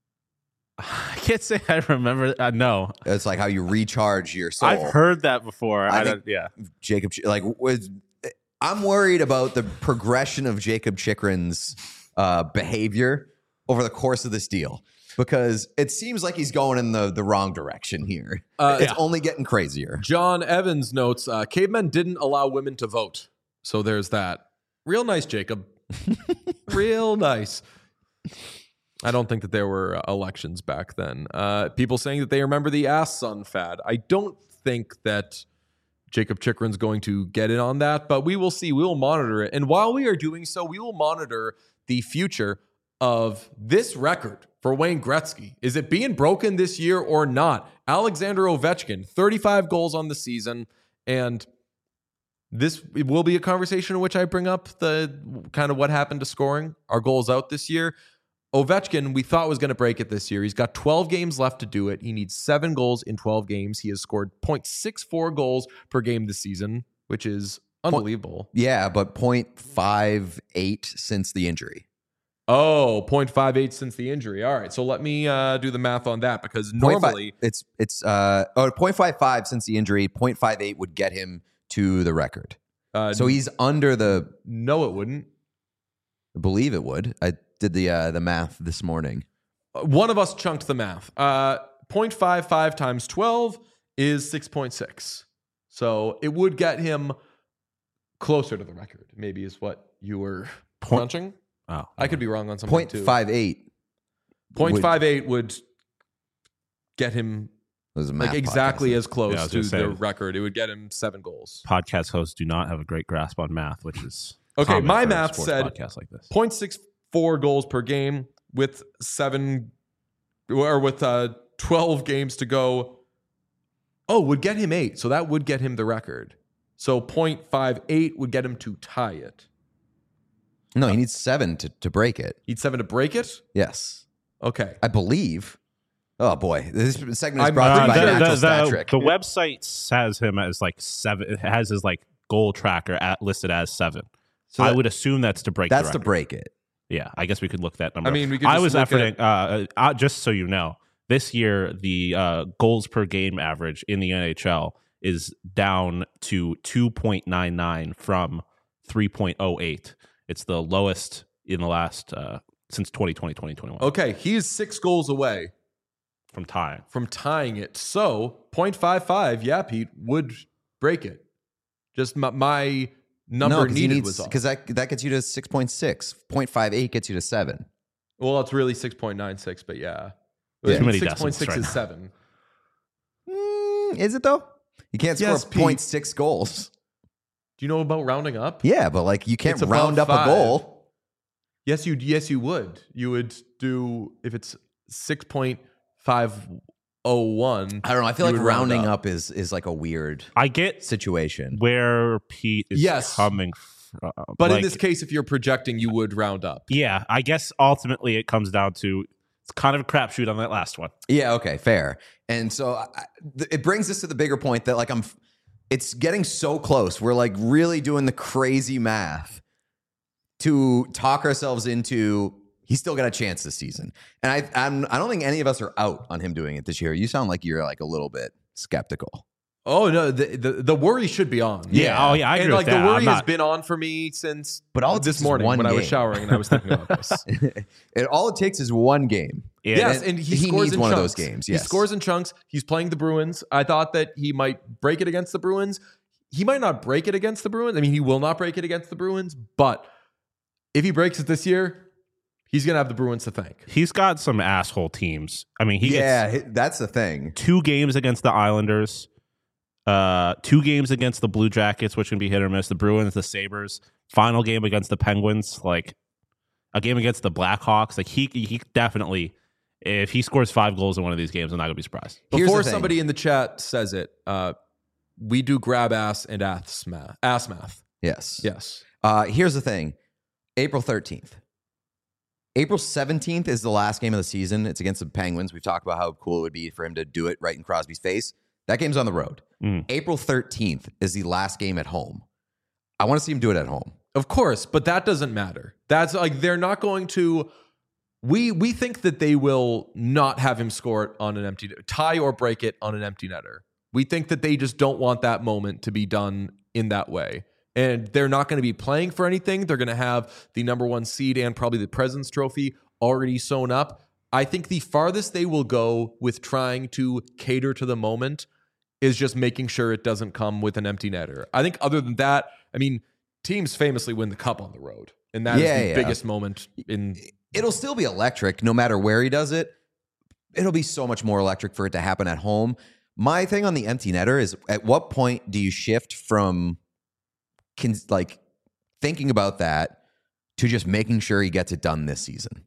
I can't say I remember. Uh, no, It's like how you recharge your soul. I've heard that before. I I, think- don't, yeah, Jacob, Ch- like, was I'm worried about the progression of Jacob Chikrin's uh, behavior over the course of this deal because it seems like he's going in the the wrong direction here. Uh, it's yeah. only getting crazier. John Evans notes, uh, cavemen didn't allow women to vote. So there's that. Real nice, Jacob. Real nice. I don't think that there were uh, elections back then. Uh, people saying that they remember the ass sun fad. I don't think that Jacob Chikrin's going to get in on that, but we will see. We will monitor it. And while we are doing so, we will monitor the future of this record for Wayne Gretzky. Is it being broken this year or not? Alexander Ovechkin, thirty-five goals on the season. And this will be a conversation in which I bring up the kind of what happened to scoring, our goals out this year. Ovechkin, we thought was going to break it this year. He's got twelve games left to do it. He needs seven goals in twelve games. He has scored point six four goals per game this season, which is unbelievable. Yeah, but point five eight since the injury. Oh, point five eight since the injury. All right, so let me uh, do the math on that because Point five- normally it's it's uh oh point five five since the injury. point five eight would get him to the record. uh, So he's under the. no, it wouldn't. I believe it would. I did the uh, the math this morning. One of us chunked the math. Uh, point five five times twelve is six point six. So it would get him closer to the record, maybe is what you were Point- crunching. oh, I could be wrong on something Point too. five eight Point would- five eight would get him was a like math exactly podcast. as close Yeah, I was to gonna say- the record. It would get him seven goals. podcast hosts do not have a great grasp on math, which is Okay, common my for a math sports said podcast like this. point six four goals per game with seven or with uh, twelve games to go. Oh, would get him eight. So that would get him the record. So point five eight would get him to tie it. No, he needs seven to, to break it. He'd seven to break it? Yes, Okay. I believe. Oh boy, this segment is I'm brought to you pretty by sure- Natural the, Stat the, Trick. the website has him as like seven. It has his like goal tracker at listed as seven. So I that- would assume that's to break. That's the to record. break it. Yeah, I guess we could look that number. I mean, we could I just was look efforting. Uh, uh, just so you know, this year the uh, goals per game average in the N H L is down to two point nine nine from three point oh eight. It's the lowest in the last uh, since twenty twenty, twenty twenty-one Okay. He is six goals away from tying. from tying it. So point five five, yeah, Pete, would break it. Just my, my number No, because needed was off. because that that gets you to six point six. point five eight gets you to seven. Well, it's really six point nine six, but yeah. Yeah. Too many six point six decimals right is now. seven. Mm, is it though? You can't score Yes, Pete. point six goals. Do you know about rounding up? Yeah, but like you can't It's above round up five. a goal. Yes, you yes you would. You would do if it's six point five oh one. I don't know. I feel you like would round rounding up. up is is like a weird I get situation. where Pete is Yes. coming from. But in Like, this case, if you're projecting, you would round up. yeah, I guess ultimately it comes down to it's kind of a crapshoot on that last one. Yeah, okay, fair. And so I, th- it brings us to the bigger point that like I'm f- it's getting so close. We're like really doing the crazy math to talk ourselves into he's still got a chance this season. And I I'm, I don't think any of us are out on him doing it this year. You sound like you're like a little bit skeptical. Oh no, the the, the worry should be on. Yeah, oh yeah, I agree and like with that. the worry I'm has not- been on for me since But all it this takes is morning one when I was game. showering and I was thinking about this. it, all it takes is one game. Yeah, yes, and and he, he scores needs in one of chunks. those games, He yes. scores in chunks. He's playing the Bruins. I thought that he might break it against the Bruins. He might not break it against the Bruins. I mean, he will not break it against the Bruins. But if he breaks it this year, he's gonna have the Bruins to thank. He's got some asshole teams. I mean, he yeah, gets hi- that's the thing. two games against the Islanders, uh, two games against the Blue Jackets, which can be hit or miss. The Bruins, the Sabres. Final game against the Penguins, like a game against the Blackhawks. Like he, he definitely, if he scores five goals in one of these games, I'm not gonna be surprised. Here's Before the thing. somebody in the chat says it, uh, we do grab ass and ass math. Ass math. Yes. Yes. Uh, here's the thing. April thirteenth. April seventeenth is the last game of the season. It's against the Penguins. We've talked about how cool it would be for him to do it right in Crosby's face. That game's on the road. Mm. April thirteenth is the last game at home. I want to see him do it at home. Of course, but that doesn't matter. That's like they're not going to. We we think that they will not have him score it on an empty tie or break it on an empty netter. We think that they just don't want that moment to be done in that way. And they're not going to be playing for anything. They're going to have the number one seed and probably the President's Trophy already sewn up. I think the farthest they will go with trying to cater to the moment is just making sure it doesn't come with an empty netter. I think other than that, I mean, teams famously win the cup on the road. And that Yeah, is the yeah. biggest moment in. It'll still be electric no matter where he does it. It'll be so much more electric for it to happen at home. My thing on the empty netter is at what point do you shift from can, like thinking about that to just making sure he gets it done this season?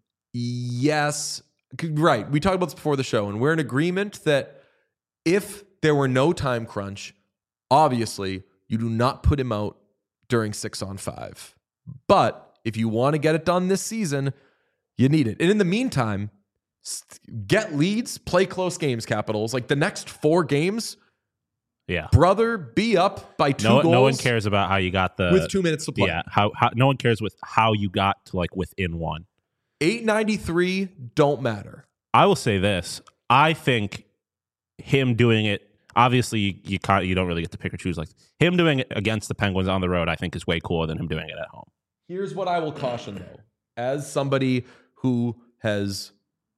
Yes. Right. We talked about this before the show, and we're in agreement that if there were no time crunch, obviously you do not put him out during six on five. But if you want to get it done this season, you need it. And in the meantime, st- get leads, play close games, Capitals. Like the next four games, Yeah. brother, be up by two No, goals no one cares about how you got the with two minutes to play. Yeah, how, how no one cares with how you got to like within one. eight ninety-three don't matter. I will say this: I think him doing it. Obviously, you you, can't, you don't really get to pick or choose. Like him doing it against the Penguins on the road, I think is way cooler than him doing it at home. Here's what I will caution, though. As somebody who has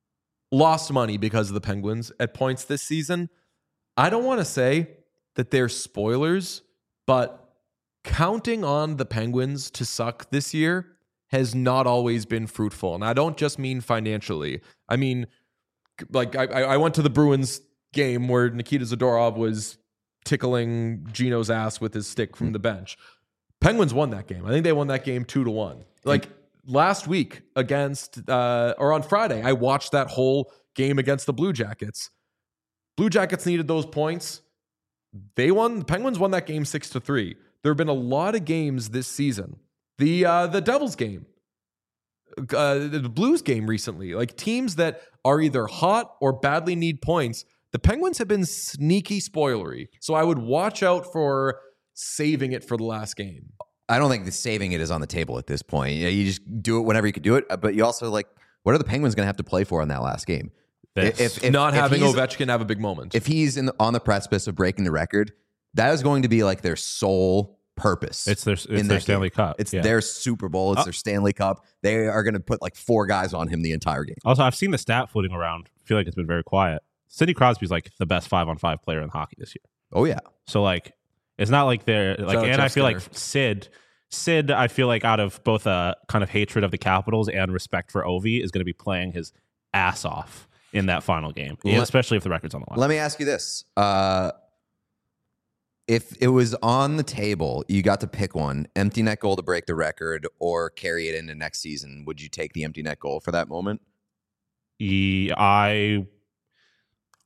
lost money because of the Penguins at points this season, I don't want to say that they're spoilers, but counting on the Penguins to suck this year has not always been fruitful. And I don't just mean financially. I mean, like, I, I went to the Bruins game where Nikita Zadorov was tickling Gino's ass with his stick from the bench. Penguins won that game. I think they won that game two to one. Like last week against, uh, or on Friday, I watched that whole game against the Blue Jackets. Blue Jackets needed those points. They won. The Penguins won that game six to three. There have been a lot of games this season. The uh, the Devils game, uh, the Blues game recently, like teams that are either hot or badly need points. The Penguins have been sneaky spoilery. So I would watch out for saving it for the last game. I don't think the saving it is on the table at this point. You, know, you just do it whenever you can do it. But you also like, what are the Penguins going to have to play for in that last game? This. If, if, Not if having he's- Ovechkin have a big moment. If he's in the, on the precipice of breaking the record, that is going to be like their sole purpose. It's their it's in their that Stanley game. Cup. It's Yeah. their Super Bowl. It's Uh, their Stanley Cup. They are going to put like four guys on him the entire game. Also, I've seen the stat floating around. I feel like it's been very quiet. Sidney Crosby's like the best five on five player in hockey this year. Oh yeah, So like, it's not like they're like, out and Jeff I feel Skinner. like Sid, Sid, I feel like out of both a kind of hatred of the Capitals and respect for Ovi is going to be playing his ass off in that final game, Let- especially if the record's on the line. let me ask you this: uh, if it was on the table, you got to pick one: empty net goal to break the record, or carry it into next season. Would you take the empty net goal for that moment? He- I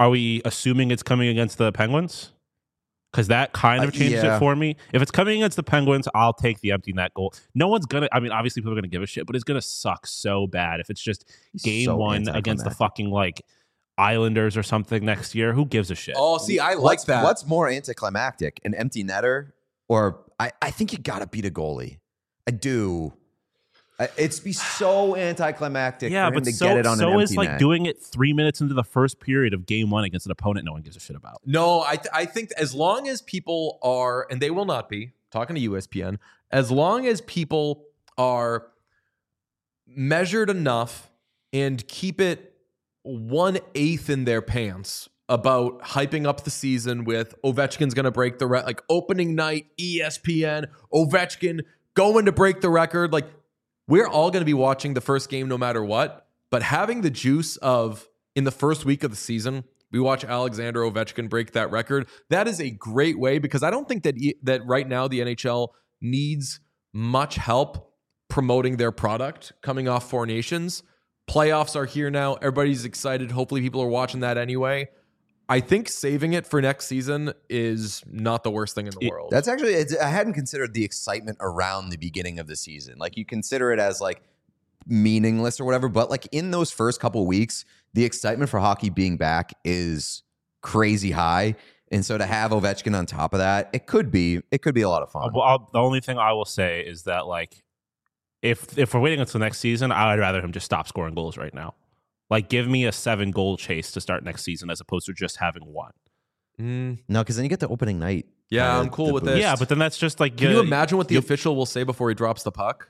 are we assuming it's coming against the Penguins? Because that kind of Uh, changes yeah. it for me. If it's coming against the Penguins, I'll take the empty net goal. No one's gonna. I mean, obviously people are gonna give a shit, but it's gonna suck so bad if it's just game so one against the anticlimactic. fucking like Islanders or something next year. Who gives a shit? Oh, see, I like what's, that. What's more anticlimactic, an empty netter, or I, I think you got to beat a goalie. I do. I- It's be so anticlimactic yeah, for him but to so get it on so an empty is like net. doing it three minutes into the first period of game one against an opponent no one gives a shit about. No, I th- I think as long as people are, and they will not be, talking to U S P N, as long as people are measured enough and keep it one eighth in their pants about hyping up the season with Ovechkin's going to break the record, like opening night, E S P N, Ovechkin going to break the record. Like, we're all going to be watching the first game no matter what, but having the juice of in the first week of the season, we watch Alexander Ovechkin break that record. That is a great way, because I don't think that e- that right now the N H L needs much help promoting their product coming off Four Nations. Playoffs are here now. Everybody's excited. Hopefully people are watching that anyway. I think saving it for next season is not the worst thing in the It- world. That's actually, it's, I hadn't considered the excitement around the beginning of the season. Like, you consider it as like meaningless or whatever, but like in those first couple weeks, the excitement for hockey being back is crazy high. And so to have Ovechkin on top of that, it could be, it could be a lot of fun. Well, I'll, the only thing I will say is that like if if we're waiting until next season, I would rather him just stop scoring goals right now. Like, give me a seven goal chase to start next season as opposed to just having one. Mm, No, because then you get the opening night. yeah, uh, I'm cool the with boost. this. Yeah, but then that's just like Can uh, you imagine what the you- official will say before he drops the puck?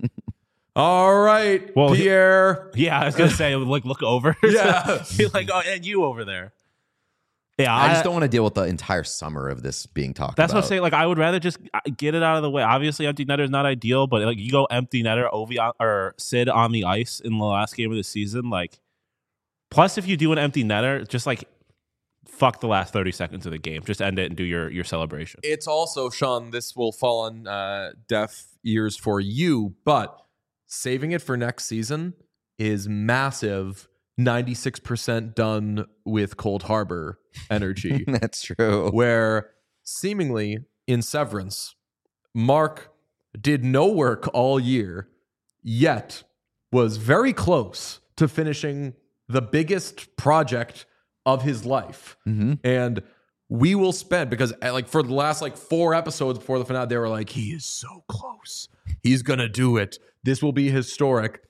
All right, Well, he- Pierre. Yeah, I was gonna say like look over. Yeah. You're like, oh, and you over there. Yeah, I just don't want to deal with the entire summer of this being talked That's about. what I'm saying. Like, I would rather just uh, get it out of the way. Obviously, empty netter is not ideal, but like you go empty netter, Ovi on, or Sid on the ice in the last game of the season. Like, plus if you do an empty netter, just like fuck the last thirty seconds of the game. Just end it and do your your celebration. It's also, Sean, this will fall on uh, deaf ears for you, but saving it for next season is massive. ninety-six percent done with Cold Harbor energy, That's true. where seemingly in Severance, Mark did no work all year, yet was very close to finishing the biggest project of his life. Mm-hmm. And we will spend, because uh, like for the last like four episodes before the finale, they were like, he is so close. He's going to do it. This will be historic.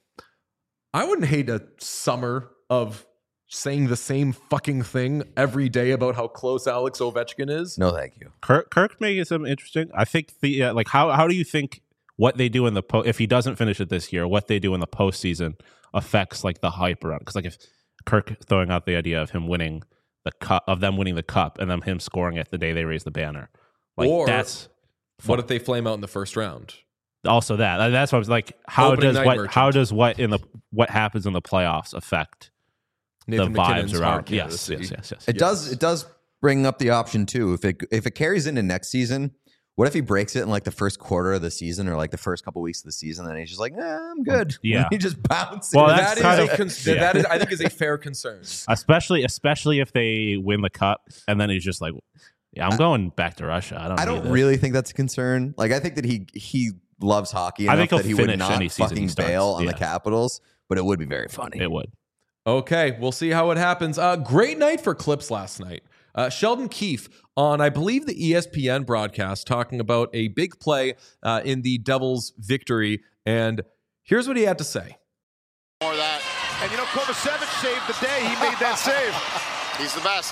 I wouldn't hate a summer of saying the same fucking thing every day about how close Alex Ovechkin is. No, thank you. Kirk Kirk making something interesting. I think the uh, like how how do you think what they do in the po- if he doesn't finish it this year, what they do in the postseason affects like the hype around? Because like if Kirk throwing out the idea of him winning the cup, of them winning the cup, and then him scoring it the day they raise the banner, like Or that's What if they flame out in the first round? also that. Like, that's what I was like. How Opening does night what merchant. how does what in the what happens in the playoffs affect Nathan the McKinnon's vibes hard around? Yes, candidacy. yes, yes, yes. It does. It does bring up the option too. If it if it carries into next season, what if he breaks it in like the first quarter of the season or like the first couple weeks of the season, and he's just like, eh, I'm good. Yeah. he just bounces. Well, That that's is kind a of- cons- yeah. that is, I think, is a fair concern. Especially especially if they win the cup, and then he's just like, yeah, I'm going back to Russia. I don't. I need don't this. really think that's a concern. Like, I think that he he loves hockey I enough think he'll that he would finish not any season he fucking starts. bail on Yeah. the Capitals, but it would be very funny. It would. Okay, we'll see how it happens. Uh, great night for clips last night. Uh, Sheldon Keefe on, I believe, the E S P N broadcast talking about a big play uh, in the Devils' victory. And here's what he had to say. More of that. And you know, Kovacevic saved the day. He made that save. He's the best.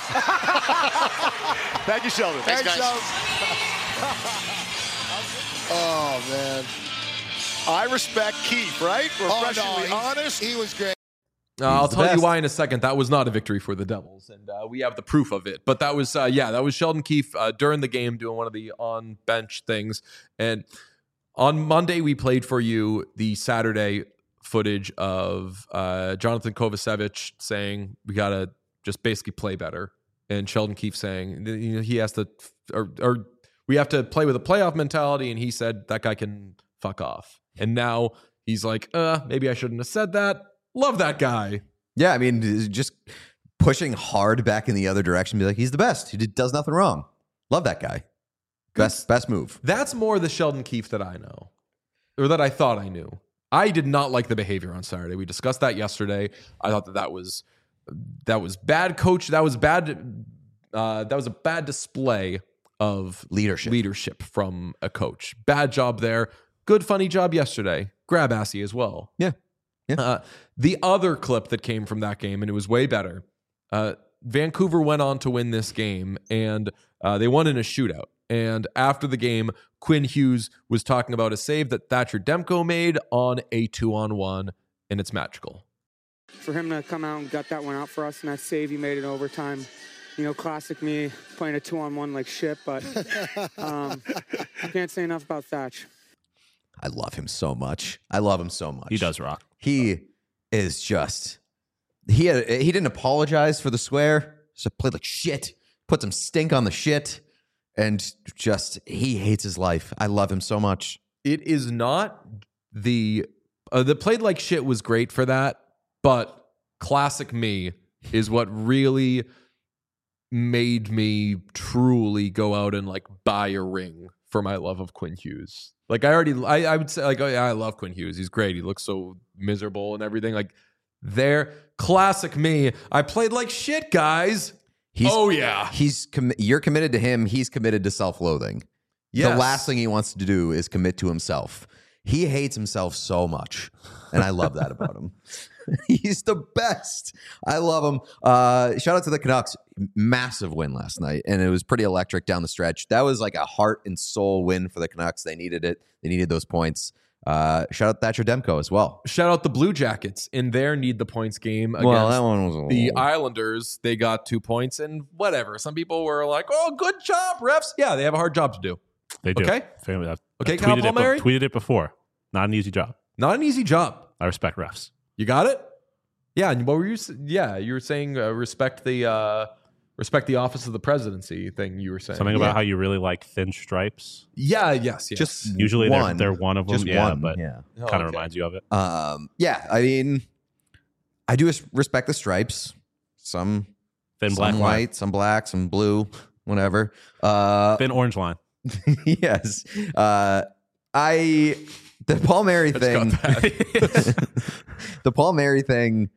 Thank you, Sheldon. Thanks, guys. Oh, man. I respect Keith, right? Refreshingly honest. He was great. Uh, I'll the tell you best. why in a second. That was not a victory for the Devils, and uh, we have the proof of it. But that was, uh, yeah, that was Sheldon Keefe uh, during the game doing one of the on-bench things. And on Monday, we played for you the Saturday footage of uh, Jonathan Kovacevic saying we got to just basically play better, and Sheldon Keefe saying you know, he has to, or, or we have to play with a playoff mentality, and he said that guy can fuck off. And now he's like, uh, maybe I shouldn't have said that. Love that guy. Yeah, I mean, it's just pushing hard back in the other direction. Be like, he's the best. He did, does nothing wrong. Love that guy. Best best move. That's more the Sheldon Keefe that I know, or that I thought I knew. I did not like the behavior on Saturday. We discussed that yesterday. I thought that that was that was bad coach. That was bad. Uh, that was a bad display of Leadership. leadership from a coach. Bad job there. Good funny job yesterday. Grab assy as well. Yeah. Yeah. Uh, the other clip that came from that game, and it was way better. Uh, Vancouver went on to win this game, and uh, they won in a shootout. And after the game, Quinn Hughes was talking about a save that Thatcher Demko made on a two-on-one, and it's magical. For him to come out and gut that one out for us, and that save he made in overtime, you know, classic me playing a two-on-one like shit, but um, I can't say enough about Thatch. I love him so much. I love him so much. He does rock. He is just he had, he didn't apologize for the swear. So played like shit. Put some stink on the shit, and just he hates his life. I love him so much. It is not the uh, the played like shit was great for that, but classic me is what really made me truly go out and like buy a ring for my love of Quinn Hughes. Like I already, I, I would say like, oh yeah, I love Quinn Hughes. He's great. He looks so miserable and everything. Like there, classic me. I played like shit, guys. He's, oh yeah. He's com- you're committed to him. He's committed to self-loathing. Yes. The last thing he wants to do is commit to himself. He hates himself so much, and I love that about him. He's the best. I love him. Uh, shout out to the Canucks. Massive win last night, and it was pretty electric down the stretch. That was like a heart and soul win for the Canucks. They needed it. They needed those points. Uh, shout out Thatcher Demko as well. Shout out the Blue Jackets in their need the points game against Well, that one was a the little- Islanders. They got two points and whatever. Some people were like, "Oh, good job, refs." Yeah, they have a hard job to do. They do. Okay. Family, I've, Okay, I've Kyle tweeted, it, Palmieri? tweeted it before. Not an easy job. Not an easy job. I respect refs. You got it? Yeah. And what were you? s- Yeah, you were saying uh, respect the uh, respect the office of the presidency thing. You were saying Something about Yeah. how you really like thin stripes. Yeah. Yes. Yes. Just Usually they're, one. they're one of them. Just yeah, one. but yeah. Oh, kind of okay. reminds you of it. Um, yeah, I mean, I do res- respect the stripes. Some, Thin some black line. white, some black, some blue, whatever. Uh, Thin orange line. yes. Uh, I the Palmieri thing. The Palmieri thing.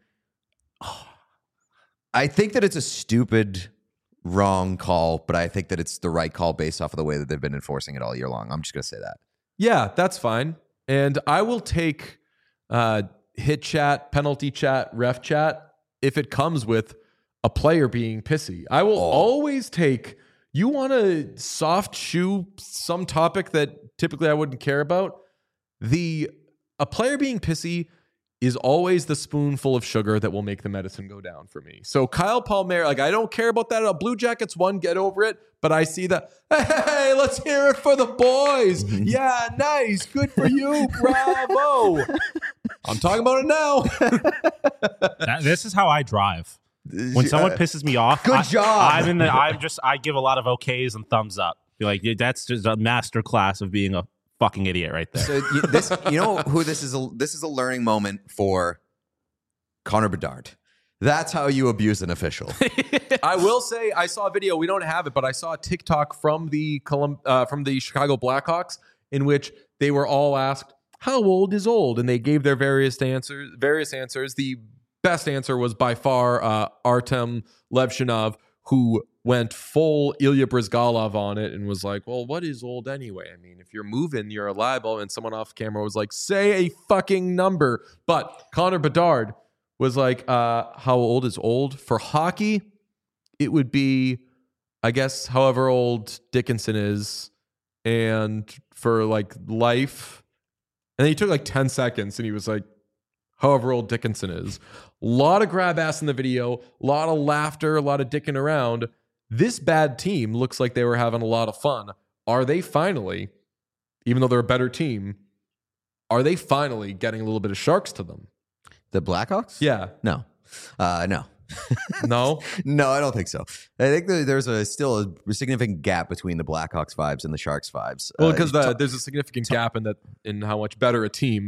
I think that it's a stupid, wrong call, but I think that it's the right call based off of the way that they've been enforcing it all year long. I'm just gonna say that. Yeah, that's fine. And I will take uh, hit chat, penalty chat, ref chat if it comes with a player being pissy. I will Oh. always take. You want to soft shoe some topic that typically I wouldn't care about. The a player being pissy is always the spoonful of sugar that will make the medicine go down for me. So Kyle Palmieri, like I don't care about that. A Blue Jackets won, get over it. But I see that. Hey, let's hear it for the boys. Yeah, nice, good for you, bravo. I'm talking about it now. That- this is how I drive. When someone pisses me off, Good I, job. I'm in the. I'm just. I give a lot of okays and thumbs up. Be like, yeah, that's just a master class of being a fucking idiot right there. So you, this, you know who this is? A, this is a learning moment for Connor Bedard. That's how you abuse an official. I will say I saw a video. We don't have it, but I saw a TikTok from the Colum- uh, from the Chicago Blackhawks in which they were all asked, "How old is old?" and they gave their various answers. Various answers. The best answer was by far uh, Artem Levshinov, who went full Ilya Brizgalov on it and was like, "Well, what is old anyway? I mean, if you're moving, you're liable." And someone off camera was like, "Say a fucking number." But Connor Bedard was like, uh, "How old is old for hockey?" It would be, I guess, however old Dickinson is, and for like life. And then he took like ten seconds, and he was like, "However old Dickinson is." A lot of grab ass in the video, a lot of laughter, a lot of dicking around. This bad team looks like they were having a lot of fun. Are they finally, even though they're a better team, are they finally getting a little bit of sharks to them? The Blackhawks? Yeah. No. Uh, no. No? No, I don't think so. I think that there's a still a significant gap between the Blackhawks vibes and the Sharks vibes. Well, Uh, because ta- the, there's a significant gap in that in how much better a team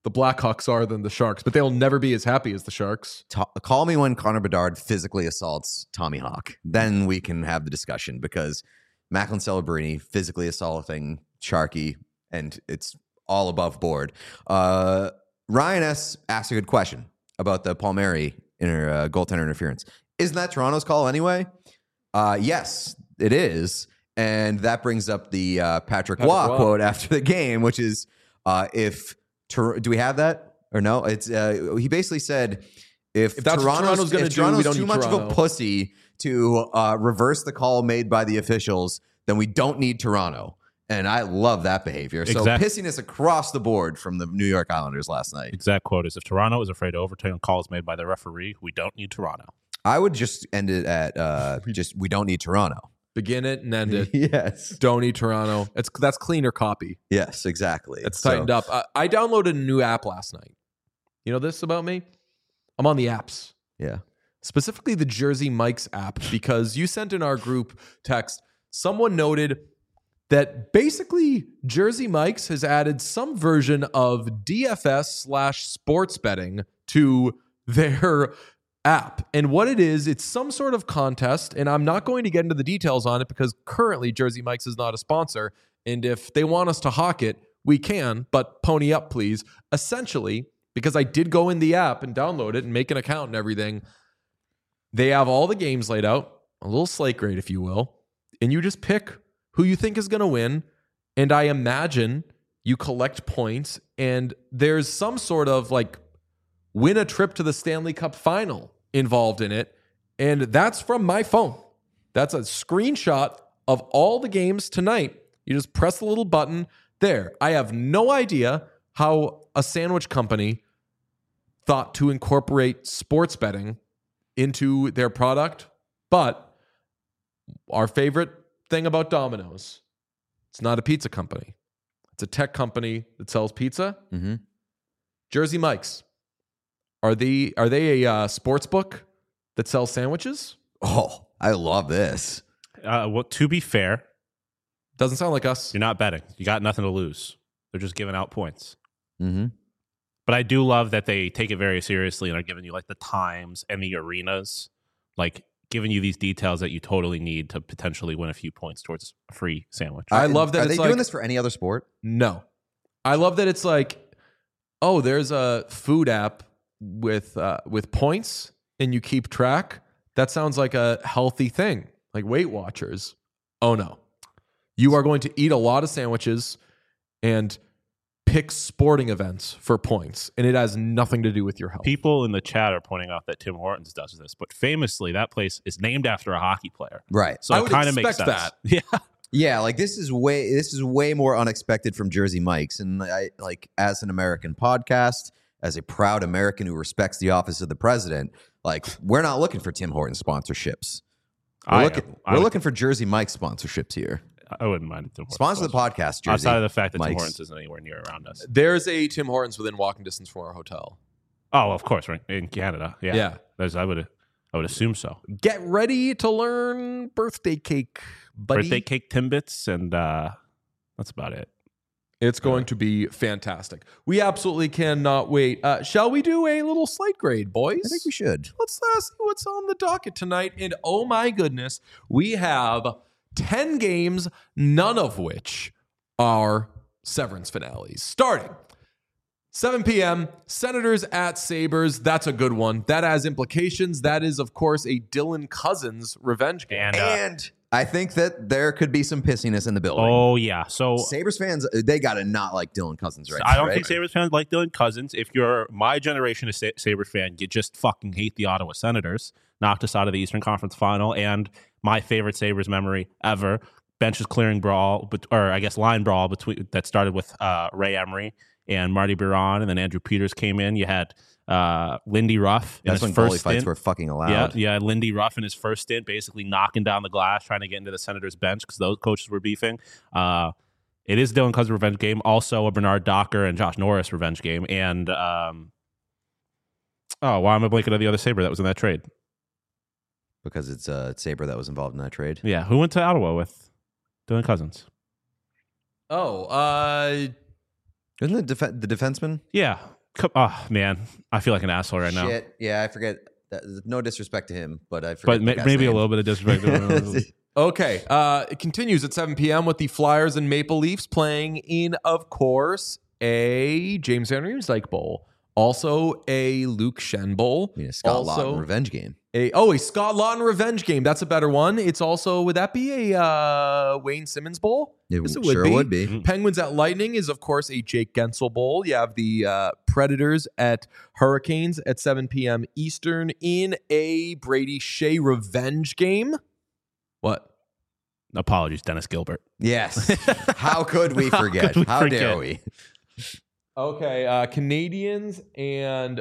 the Blackhawks are than the Sharks, but they'll never be as happy as the Sharks. Ta- call me when Connor Bedard physically assaults Tommy Hawk. Then we can have the discussion because Macklin Celebrini physically assaulting Sharky, and it's all above board. Uh, Ryan S. asked a good question about the Palmieri inter, uh, goaltender interference. Isn't that Toronto's call anyway? Uh, yes, it is. And that brings up the uh, Patrick, Patrick Waugh Waugh. quote after the game, which is uh, if Tor- do we have that or no? It's uh, he basically said if, If that's what Toronto's, Toronto's gonna if do, we Toronto's don't too need much of Toronto. a pussy to uh, reverse the call made by the officials, then we don't need Toronto. And I love that behavior. So Exact- pissiness across the board from the New York Islanders last night. Exact quote is, if Toronto is afraid to overturn calls made by the referee, we don't need Toronto. I would just end it at uh, just we don't need Toronto. Begin it and end it. Yes. Don't need Toronto. It's that's cleaner copy. Yes, exactly. It's So- tightened up. I, I downloaded a new app last night. You know this about me? I'm on the apps, Yeah. specifically the Jersey Mike's app, because you sent in our group text. Someone noted that basically Jersey Mike's has added some version of D F S slash sports betting to their app. And what it is, it's some sort of contest. And I'm not going to get into the details on it because currently Jersey Mike's is not a sponsor. And if they want us to hawk it, we can, but pony up, please. Essentially, because I did go in the app and download it and make an account and everything, they have all the games laid out, a little slate grade, if you will, and you just pick who you think is going to win. And I imagine you collect points, and there's some sort of like win a trip to the Stanley Cup final involved in it. And that's from my phone. That's a screenshot of all the games tonight. You just press the little button there. I have no idea how a sandwich company thought to incorporate sports betting into their product, but our favorite thing about Domino's, it's not a pizza company. It's a tech company that sells pizza. Mm-hmm. Jersey Mike's. Are they are they a uh, sports book that sells sandwiches? Oh, I love this. Uh, well, to be fair, Doesn't sound like us. you're not betting. You got nothing to lose. They're just giving out points. Mm-hmm. But I do love that they take it very seriously and are giving you like the times and the arenas, like giving you these details that you totally need to potentially win a few points towards a free sandwich. I love that Are it's they like, doing this for any other sport? No. I love that it's like, oh, there's a food app with uh, with points and you keep track. That sounds like a healthy thing, like Weight Watchers. Oh, no. You are going to eat a lot of sandwiches and pick sporting events for points, and it has nothing to do with your health. People in the chat are pointing out that Tim Hortons does this, but famously, that place is named after a hockey player. Right. So I it would kind of makes expect sense. that. Yeah. Yeah, like this is way this is way more unexpected from Jersey Mike's, and I like as an American podcast, as a proud American who respects the office of the president, like we're not looking for Tim Hortons sponsorships. We're I looking am. I we're would- looking for Jersey Mike's sponsorships here. I wouldn't mind Tim Hortons. Sponsor the podcast, Jersey. Outside of the fact that Tim Mike's. Hortons isn't anywhere near around us. There's a Tim Hortons within walking distance from our hotel. Oh, of course, right in Canada. Yeah, Yeah. There's, I would, I would assume so. Get ready to learn birthday cake, buddy. Birthday cake Timbits, and uh, that's about it. It's going to be fantastic. We absolutely cannot wait. Uh, shall we do a little slate grade, boys? I think we should. Let's uh, see what's on the docket tonight. And oh my goodness, we have ten games, none of which are Severance finales. Starting seven p.m., Senators at Sabres. That's a good one. That has implications. That is, of course, a Dylan Cousins revenge game. And, uh, And I think that there could be some pissiness in the building. oh yeah, so Sabres fans, they got to not like Dylan Cousins right I now, don't right? think Sabres fans like Dylan Cousins. If you're my generation of Sa- Sabres fan, you just fucking hate the Ottawa Senators. Knocked us out of the Eastern Conference Final, and my favorite Sabres memory ever, benches clearing brawl, bet- or I guess line brawl between that started with uh, Ray Emery and Marty Biron, and then Andrew Peters came in. You had uh, Lindy Ruff in That's his when goalie first fights stint. were fucking allowed. Yeah, yeah. Lindy Ruff in his first stint, basically knocking down the glass, trying to get into the Senators bench because those coaches were beefing. Uh, it is Dylan Cousins' revenge game, also a Bernard Docker and Josh Norris revenge game, and um, oh, why am I blanking on the other Sabre that was in that trade? Because it's uh, Sabre that was involved in that trade. Yeah, who went to Ottawa with Dylan Cousins? Oh, uh, Isn't it def- the defenseman? Yeah, Come, oh man, I feel like an asshole right now. Shit. Yeah, I forget. That, no disrespect to him, but I forget. But ma- maybe name. a little bit of disrespect. Okay, uh, it continues at seven p.m. with the Flyers and Maple Leafs playing in, of course, a James Van Riemsdyk Bowl. Also a Luke Shen Bowl. I mean, a Scott also, Laughton revenge game. A, oh, a Scott Laughton revenge game. That's a better one. It's also, would that be a uh, Wayne Simmons Bowl? It Yes, sure be. would be. Mm-hmm. Penguins at Lightning is, of course, a Jake Gensel Bowl. You have the uh, Predators at Hurricanes at seven p.m. Eastern in a Brady Shea revenge game. What? Apologies, Dennis Gilbert. Yes. How could we How forget? could we How forget? dare we? Okay, uh, Canadians and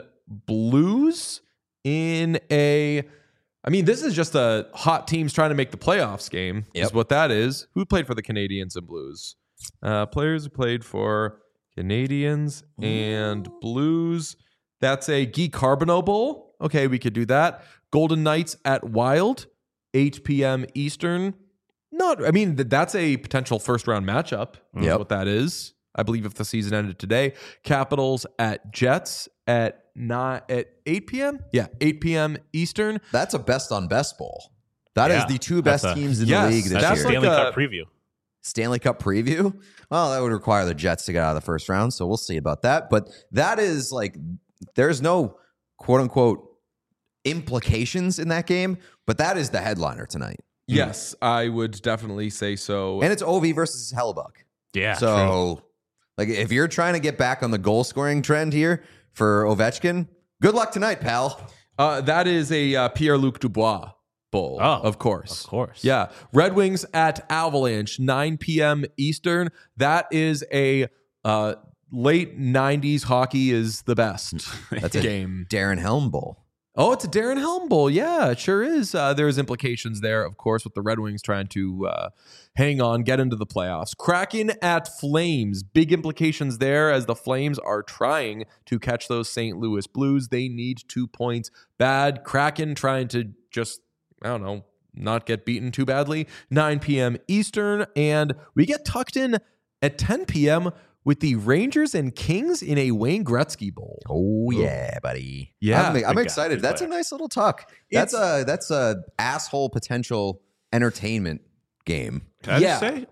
Blues in a. I mean, this is just a hot teams trying to make the playoffs game. Yep. Is what that is. Who played for the Canadians and Blues? Uh, players who played for Canadians and Blues. That's a Guy Carbonneau Bowl. Okay, we could do that. Golden Knights at Wild, eight p.m. Eastern. Not. I mean, th- that's a potential first round matchup. Is Yep. what that is. I believe if the season ended today. Capitals at Jets at nine at eight p.m. Yeah, eight p.m. Eastern. That's a best on best bowl. That is Yeah, the two that's best a- teams in yes, the league this That's That's a year. like Stanley a- Cup preview. Stanley Cup preview. Well, that would require the Jets to get out of the first round, so we'll see about that. But that is like, there's no quote unquote implications in that game, but that is the headliner tonight. Yes, I would definitely say so. And it's Ovi versus Hellebuck. Yeah. So, like, if you're trying to get back on the goal scoring trend here for Ovechkin, good luck tonight, pal. Uh, that is a uh, Pierre-Luc Dubois Bowl, Oh, of course. Of course. Yeah. Red Wings at Avalanche, nine p.m. Eastern. That is a uh, late nineties hockey is the best That's a game. Darren Helm Bowl. Oh, it's a Darren Helm Bowl. Yeah, it sure is. Uh, there's implications there, of course, with the Red Wings trying to uh, hang on, get into the playoffs. Kraken at Flames. Big implications there as the Flames are trying to catch those Saint Louis Blues. They need two points bad. Kraken trying to just, I don't know, not get beaten too badly. nine p.m. Eastern. And we get tucked in at ten p.m. with the Rangers and Kings in a Wayne Gretzky Bowl. Oh yeah, buddy. Yeah, I'm, big I'm guy, excited. big That's a player. nice little tuck. That's a that's a asshole potential entertainment game. Can I Yeah. just say?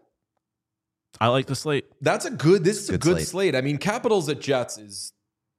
I like the slate. That's a good. This is a Good good slate. slate. I mean, Capitals at Jets is.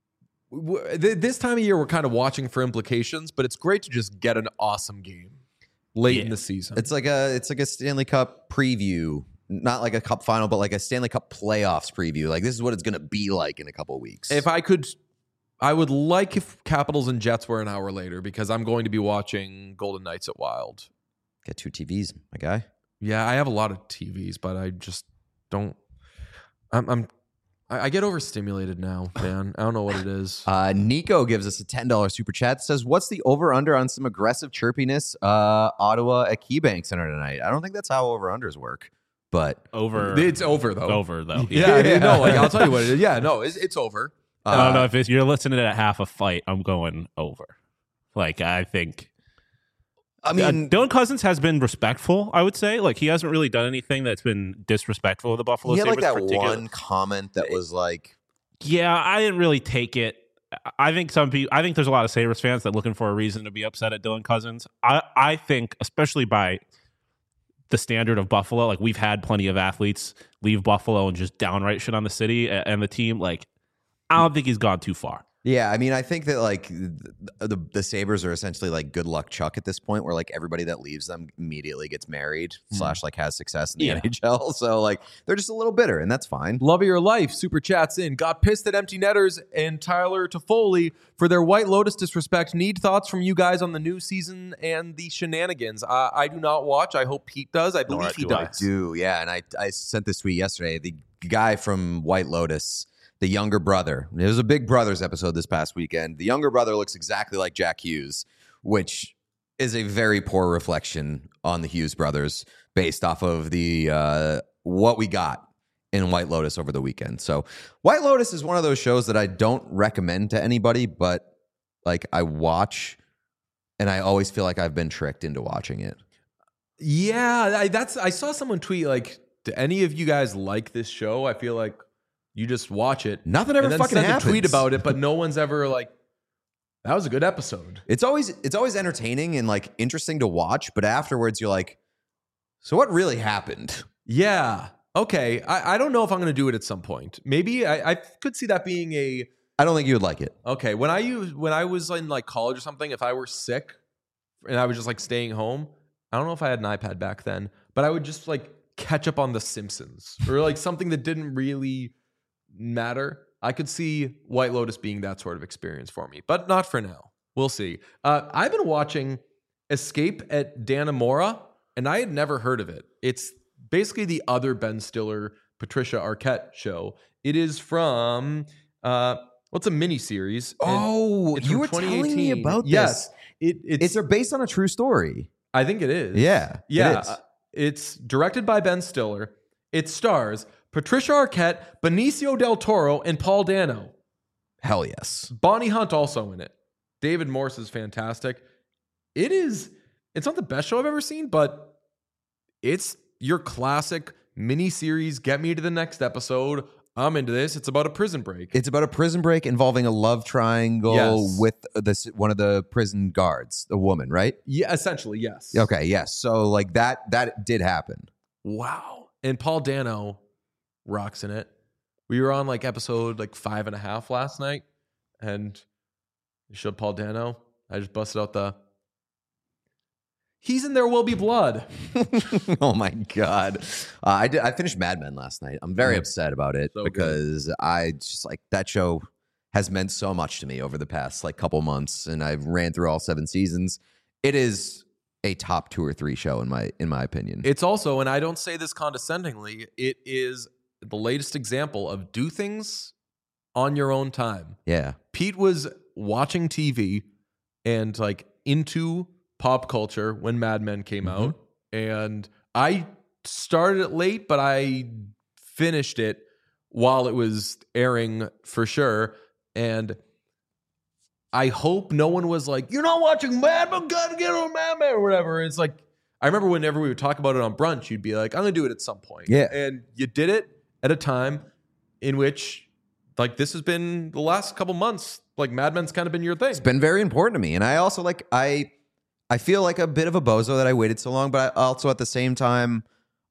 w- th- This time of year, we're kind of watching for implications, but it's great to just get an awesome game late in Yeah. the season. It's like a it's like a Stanley Cup preview, not like a Cup final, but like a Stanley Cup playoffs preview. Like this is what it's going to be like in a couple of weeks. If I could, I would like if Capitals and Jets were an hour later because I'm going to be watching Golden Knights at Wild. Get two T Vs, my guy. Yeah, I have a lot of T Vs, but I just don't. I'm. I'm I I get overstimulated now, man. I don't know what it is. Uh, Nico gives us a ten dollars super chat that says, what's the over-under on some aggressive chirpiness uh, Ottawa at KeyBank Center tonight? I don't think that's how over-unders work, but Over. It's over though. Over, though. Yeah, I mean, no, like I'll tell you what it is. Yeah, no, it's, it's over. I don't uh, know if it's, you're listening at half a fight. I'm going over. Like, I think. I mean, uh, Dylan Cousins has been respectful, I would say. Like, he hasn't really done anything that's been disrespectful of the Buffalo he had like Sabres that particularly. one comment that was like, Yeah, I didn't really take it. I think some people, I think there's a lot of Sabres fans that are looking for a reason to be upset at Dylan Cousins. I, I think, especially by the standard of Buffalo, like we've had plenty of athletes leave Buffalo and just downright shit on the city and, and the team. Like, I don't think he's gone too far. yeah, I mean, I think that like the, the the Sabres are essentially like good luck Chuck at this point, where like everybody that leaves them immediately gets married slash like has success in the Yeah. N H L. So like they're just a little bitter, and that's fine. Love of your life. Super chats in. Got pissed at Empty Netters and Tyler Toffoli for their White Lotus disrespect. Need thoughts from you guys on the new season and the shenanigans. Uh, I do not watch. I hope Pete does. I Nor believe he do I. does. Do yeah, and I I sent this tweet yesterday. The guy from White Lotus, the younger brother. It was a Big Brothers episode this past weekend. The younger brother looks exactly like Jack Hughes, which is a very poor reflection on the Hughes brothers based off of the uh, what we got in White Lotus over the weekend. So White Lotus is one of those shows that I don't recommend to anybody, but like I watch and I always feel like I've been tricked into watching it. Yeah, I, that's. I saw someone tweet like, "Do any of you guys like this show?" I feel like You just watch it. Nothing ever and then fucking send happens. a tweet about it, but no one's ever like, that was a good episode. It's always it's always entertaining and like interesting to watch, but afterwards you're like, so what really happened? Yeah. Okay. I, I don't know if I'm going to do it at some point. Maybe I, I could see that being a. I don't think you would like it. Okay. When I use when I was in like college or something, if I were sick and I was just like staying home, I don't know if I had an iPad back then, but I would just like catch up on The Simpsons or like something that didn't really matter. I could see White Lotus being that sort of experience for me, but not for now. We'll see. Uh, I've been watching Escape at Dannemora, and I had never heard of it. It's basically the other Ben Stiller, Patricia Arquette show. It is from, uh, what's a miniseries? Oh, It's you from were telling me twenty eighteen. about this. Yes. It, it's, It's based on a true story. I think it is. Yeah, it Yeah. is. uh, It's directed by Ben Stiller. It stars Patricia Arquette, Benicio del Toro, and Paul Dano. Hell yes. Bonnie Hunt also in it. David Morse is fantastic. It is, it's not the best show I've ever seen, but it's your classic miniseries. Get me to the next episode. I'm into this. It's about a prison break. It's about a prison break involving a love triangle Yes. with this one of the prison guards, the woman, right? Yeah, essentially, yes. Okay, yes. So like that that did happen. Wow. And Paul Dano rocks in it. We were on like episode like five and a half last night, and you showed Paul Dano. I just busted out the, he's in There Will Be Blood. Oh my god. Uh, I did I finished Mad Men last night. I'm very Mm. upset about it So good. because I just like that show has meant so much to me over the past like couple months, and I've ran through all seven seasons. It is a top two or three show in my in my opinion. It's also, and I don't say this condescendingly, it is the latest example of do things on your own time. yeah. Pete was watching T V and like into pop culture when Mad Men came Mm-hmm. out. And I started it late, but I finished it while it was airing for sure. And I hope no one was like, you're not watching Mad Men, gotta get on Mad Men or whatever. It's like, I remember whenever we would talk about it on brunch, you'd be like, I'm gonna do it at some point. Yeah. And you did it at a time in which, like, this has been the last couple months, like Mad Men's kind of been your thing. It's been very important to me, and I also like I I feel like a bit of a bozo that I waited so long, but I also at the same time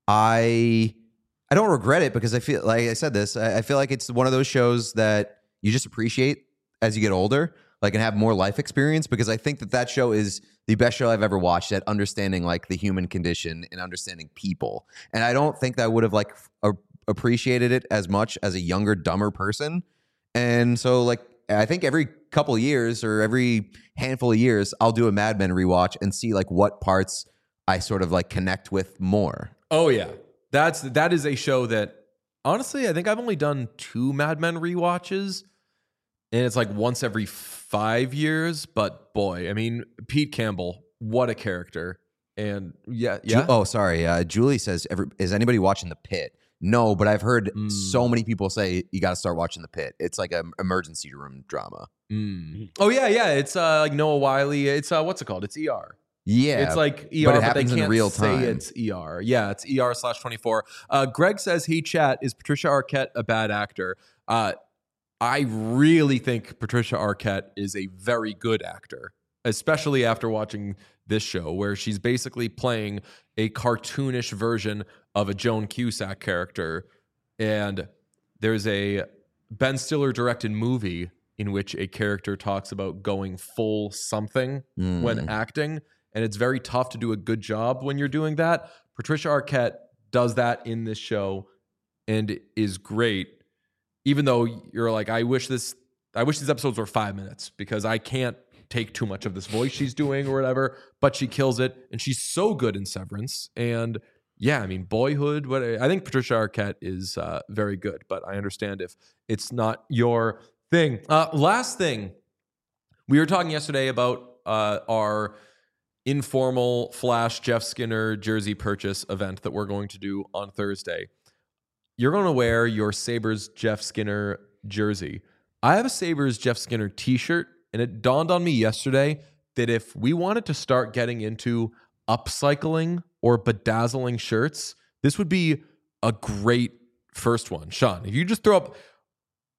I I don't regret it because I feel like I said this. I, I feel like it's one of those shows that you just appreciate as you get older, like and have more life experience. Because I think that that show is the best show I've ever watched at understanding like the human condition and understanding people. And I don't think that I would have like a, appreciated it as much as a younger, dumber person. And so like. I think every couple of years or every handful of years, I'll do a Mad Men rewatch and see like what parts I sort of like connect with more. Oh yeah, that's that is a show that honestly I think I've only done two Mad Men rewatches, and it's like once every five years. But boy, I mean Pete Campbell, what a character! And yeah, yeah. Ju- oh, sorry. Uh, Julie says, every, is anybody watching The Pit? No, but I've heard Mm. so many people say you got to start watching The Pit. It's like an emergency room drama. Mm. Oh yeah, yeah. It's uh, like Noah Wiley. It's uh, what's it called? It's E R. Yeah, It's like E but R, it but, happens they in can't real say time. it's E R. Yeah, it's E R slash twenty-four. Uh, Greg says, hey, chat, is Patricia Arquette a bad actor? Uh, I really think Patricia Arquette is a very good actor, especially after watching this show where she's basically playing a cartoonish version of a Joan Cusack character. And there's a Ben Stiller directed movie in which a character talks about going full something Mm. when acting. And it's very tough to do a good job when you're doing that. Patricia Arquette does that in this show and is great. Even though you're like, I wish this, I wish these episodes were five minutes because I can't take too much of this voice she's doing or whatever, but she kills it. And she's so good in Severance. And yeah, I mean, Boyhood, what I think Patricia Arquette is uh, very good, but I understand if it's not your thing. Uh, last thing, we were talking yesterday about uh, our informal Flash Jeff Skinner jersey purchase event that we're going to do on Thursday. You're going to wear your Sabres Jeff Skinner jersey. I have a Sabres Jeff Skinner t-shirt, and it dawned on me yesterday that if we wanted to start getting into upcycling or bedazzling shirts, this would be a great first one. Sean, if you just throw up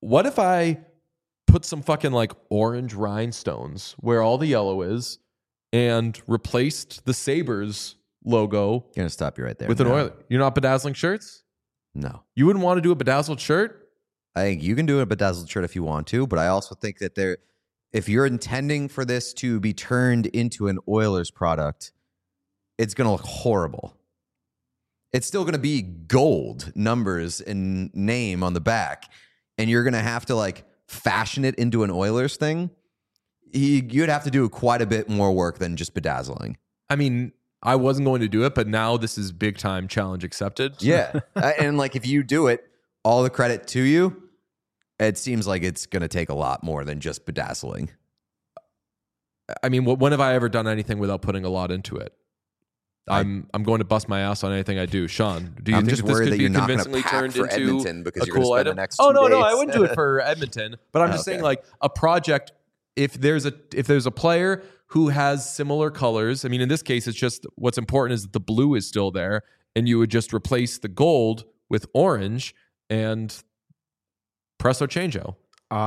what if I put some fucking like orange rhinestones where all the yellow is and replaced the Sabres logo Gonna stop you right there. with an No. oil? You're not bedazzling shirts? No. You wouldn't want to do a bedazzled shirt? I think you can do a bedazzled shirt if you want to, but I also think that there, if you're intending for this to be turned into an Oilers product, it's going to look horrible. It's still going to be gold numbers and name on the back, and you're going to have to like fashion it into an Oilers thing. You- You'd have to do quite a bit more work than just bedazzling. I mean, I wasn't going to do it, but now this is big time challenge accepted. Yeah. Uh, and like if you do it, all the credit to you. It seems like it's going to take a lot more than just bedazzling. I mean, wh- when have I ever done anything without putting a lot into it? I'm I'm going to bust my ass on anything I do. Sean, do you I'm think just that this worried could that be you're not gonna convincingly pack turned for into Edmonton because a you're gonna cool spend the item? next Oh two no, no, I days. wouldn't do it for Edmonton. But I'm just Okay. saying, like a project. If there's a if there's a player who has similar colors, I mean, in this case, it's just what's important is that the blue is still there, and you would just replace the gold with orange and presto changeo.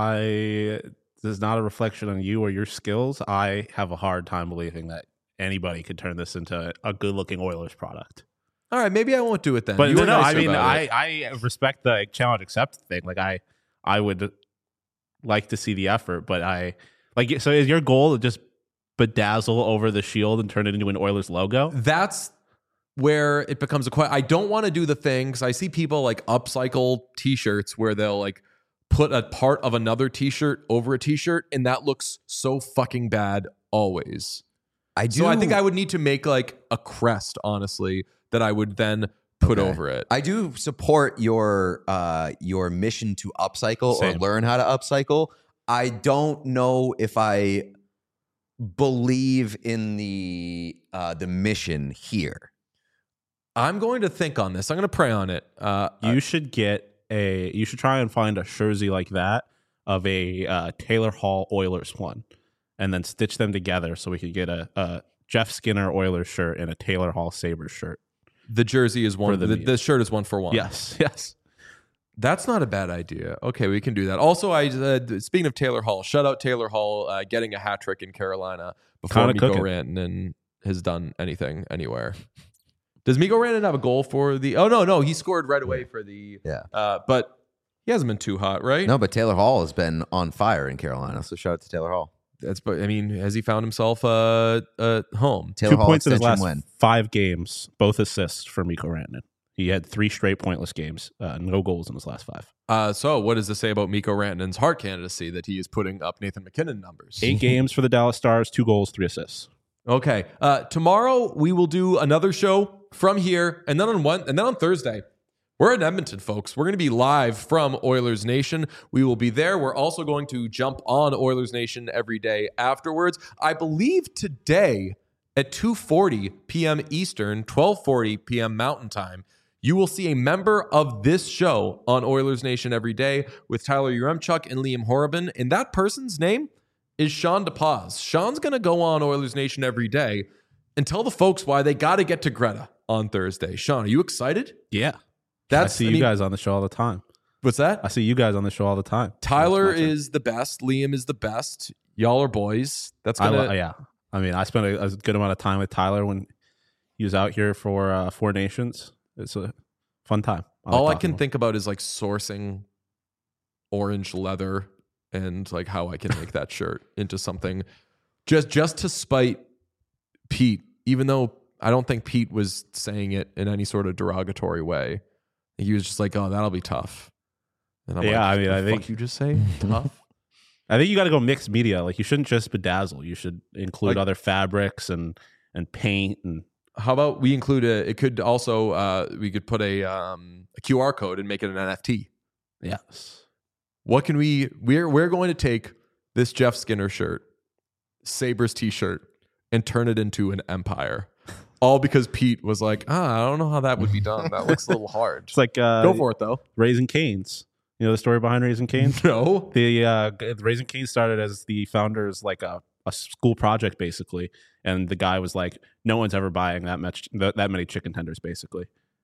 I this is not a reflection on you or your skills. I have a hard time believing that anybody could turn this into a good looking Oilers product. All right, maybe I won't do it then. But You no, were no, I nicer mean, about I, it. I respect the challenge accepted thing. Like I, I would like to see the effort, but I like. So is your goal to just bedazzle over the shield and turn it into an Oilers logo? That's where it becomes a question. I don't want to do the thing because I see people like upcycle T-shirts where they'll like put a part of another T-shirt over a T-shirt, and that looks so fucking bad always. I do. So I think I would need to make like a crest, honestly, that I would then put Okay. over it. I do support your uh, your mission to upcycle Same. or learn how to upcycle. I don't know if I believe in the uh, the mission here. I'm going to think on this. I'm going to pray on it. Uh, You should get a. You should try and find a jersey like that of a uh, Taylor Hall Oilers one, and then stitch them together so we could get a, a Jeff Skinner Oilers shirt and a Taylor Hall Sabres shirt. the jersey is one. For the The, meet. the shirt is one for one. Yes, yes. That's not a bad idea. Okay, we can do that. Also, I uh, speaking of Taylor Hall, shout out Taylor Hall uh, getting a hat trick in Carolina before Kinda Mikko cooking. Rantanen has done anything anywhere. Does Mikko Rantanen have a goal for the? Oh no, no, he scored right away for the. Yeah. Uh, but he hasn't been too hot, right? No, but Taylor Hall has been on fire in Carolina. So shout out to Taylor Hall. That's. But I mean, has he found himself uh, uh home? Taylor Two Hall points in his extension last win. five games, both assists for Mikko Rantanen. He had three straight pointless games, uh, no goals in his last five. Uh, so what does this say about Mikko Rantanen's Hart candidacy that he is putting up Nathan McKinnon numbers? Eight games for the Dallas Stars, two goals, three assists. Okay. Uh, tomorrow we will do another show from here, and then on one, and then on Thursday, we're in Edmonton, folks. We're going to be live from Oilers Nation. We will be there. We're also going to jump on Oilers Nation every day afterwards. I believe today at two forty p.m. Eastern, twelve forty p.m. Mountain Time, you will see a member of this show on Oilers Nation every day with Tyler Uremchuk and Liam Horrobin, and that person's name is Sean DePaz. Sean's going to go on Oilers Nation every day and tell the folks why they got to get to Greta on Thursday. Sean, are you excited? Yeah. That's I see I you mean, guys on the show all the time. What's that? I see you guys on the show all the time. Tyler That's my turn. is the best. Liam is the best. Y'all are boys. That's I gonna. lo- yeah. I mean, I spent a, a good amount of time with Tyler when he was out here for uh, Four Nations. It's a fun time. I like all I talking can to him. think about is like sourcing orange leather and like how I can make that shirt into something just just to spite Pete, even though I don't think Pete was saying it in any sort of derogatory way. He was just like, "Oh, that'll be tough." And I'm Yeah, like, I mean, "The I think- fuck you just say tough." I think you got to go mixed media. Like you shouldn't just bedazzle. You should include Like- other fabrics and and paint and How about we include a? It could also uh, we could put a um, a Q R code and make it an N F T. yes. What can we? We're we're going to take this Jeff Skinner shirt, Sabres T-shirt, and turn it into an empire. All because Pete was like, ah, I don't know how that would be done. That looks a little hard. It's like uh, Go for it though. Raising Cane's. You know the story behind Raising Cane's? No. The uh, g- Raising Cane's started as the founders like a, a school project basically, and the guy was like, "No one's ever buying that much that, that many chicken tenders." Basically,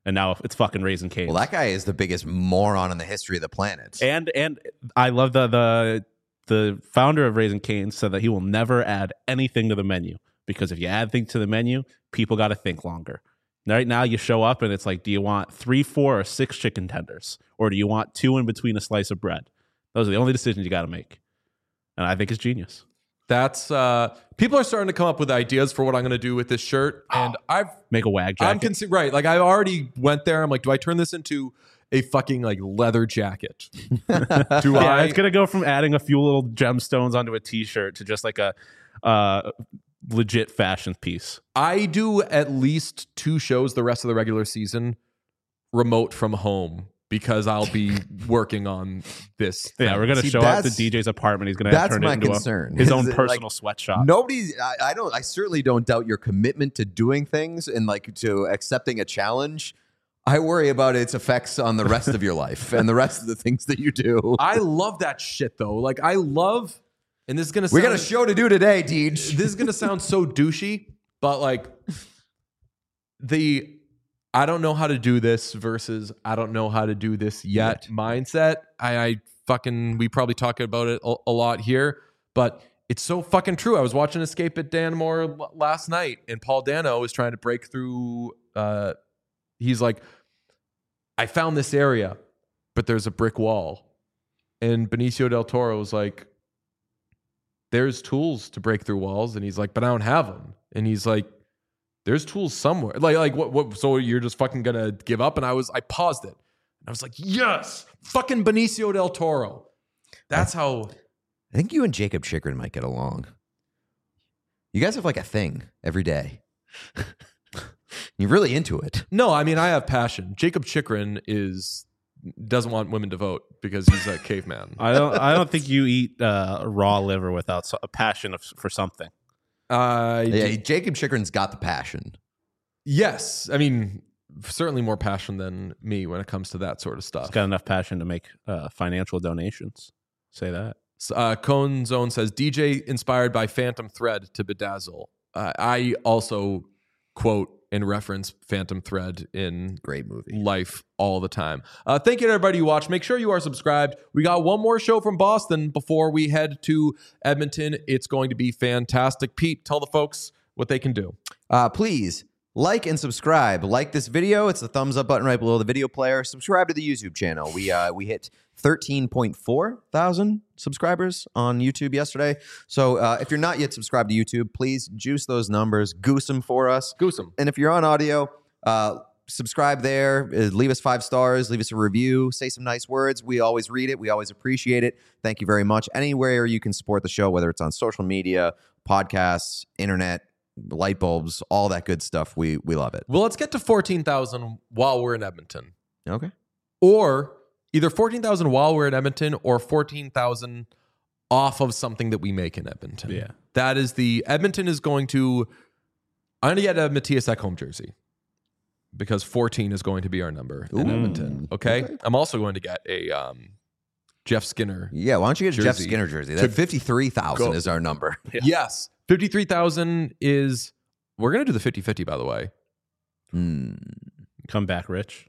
and now it's fucking Raising Cane's. Well, that guy is the biggest moron in the history of the planet. And and I love the the the founder of Raising Cane's said that he will never add anything to the menu because if you add things to the menu, people got to think longer. Right now, you show up and it's like, do you want three, four, or six chicken tenders, or do you want two in between a slice of bread? Those are the only decisions you got to make, and I think it's genius. That's uh, people are starting to come up with ideas for what I'm going to do with this shirt, and I've Make a wag jacket. I'm consi- right. Like I already went there. I'm like, do I turn this into a fucking like leather jacket? Do yeah, I? it's gonna go from adding a few little gemstones onto a T-shirt to just like a uh, legit fashion piece. I do at least two shows the rest of the regular season remote from home because I'll be working on this. Yeah, thing. we're gonna See, show up to that's- D J's apartment. He's gonna that's turn my it into concern. A, his Is own it, personal like, sweatshop. Nobody's. I, I don't. I certainly don't doubt your commitment to doing things and like to accepting a challenge. I worry about its effects on the rest of your life and the rest of the things that you do. I love that shit though. Like I love, and this is gonna. We sound, got a show to do today, Deej. This is gonna sound so douchey, but like the I don't know how to do this versus I don't know how to do this yet mindset. I, I fucking we probably talk about it a, a lot here, but it's so fucking true. I was watching Escape at Danmore l- last night, and Paul Dano was trying to break through. Uh, he's like, I found this area, but there's a brick wall, and Benicio del Toro was like, there's tools to break through walls, and he's like, but I don't have them, and he's like, there's tools somewhere. Like, like what, what, so you're just fucking gonna give up? And I was, I paused it. And I was like, yes, fucking Benicio del Toro. That's how. I think you and Jacob Chikrin might get along. You guys have like a thing every day. You're really into it. No, I mean, I have passion. Jacob Chikrin is, doesn't want women to vote because he's a caveman. I don't. I don't think you eat uh, raw liver without so- a passion of, for something. Uh, Yeah, Jacob Chikrin's got the passion. yes. I mean, certainly more passion than me when it comes to that sort of stuff. He's got enough passion to make uh, financial donations. Say that. Uh, Cone Zone says D J inspired by Phantom Thread to bedazzle. Uh, I also quote and reference Phantom Thread in Great movie. life all the time. Uh, thank you to everybody who watched. Make sure you are subscribed. We got one more show from Boston before we head to Edmonton. It's going to be fantastic. Pete, tell the folks what they can do. Uh, please like and subscribe. Like this video. It's the thumbs up button right below the video player. Subscribe to the YouTube channel. We uh, we hit thirteen point four thousand subscribers on YouTube yesterday. So uh, if you're not yet subscribed to YouTube, please juice those numbers, goose them for us. Goose 'em. And if you're on audio, uh, subscribe there. Uh, leave us five stars. Leave us a review. Say some nice words. We always read it. We always appreciate it. Thank you very much. Anywhere you can support the show, whether it's on social media, podcasts, internet, light bulbs, all that good stuff. We we love it. Well, let's get to fourteen thousand while we're in Edmonton. Okay. Or either fourteen thousand while we're in Edmonton or fourteen thousand off of something that we make in Edmonton. Yeah. That is the, Edmonton is going to, I'm going to get a Matthias Ekholm jersey because fourteen is going to be our number in Ooh. Edmonton. Okay? I'm also going to get a um, Jeff Skinner. Yeah, why don't you get a Jeff Jersey. Skinner jersey? To That fifty-three thousand go. is our number. Yeah. Yes. fifty-three thousand is, we're going to do the fifty-fifty, by the way. Hmm. Come back rich.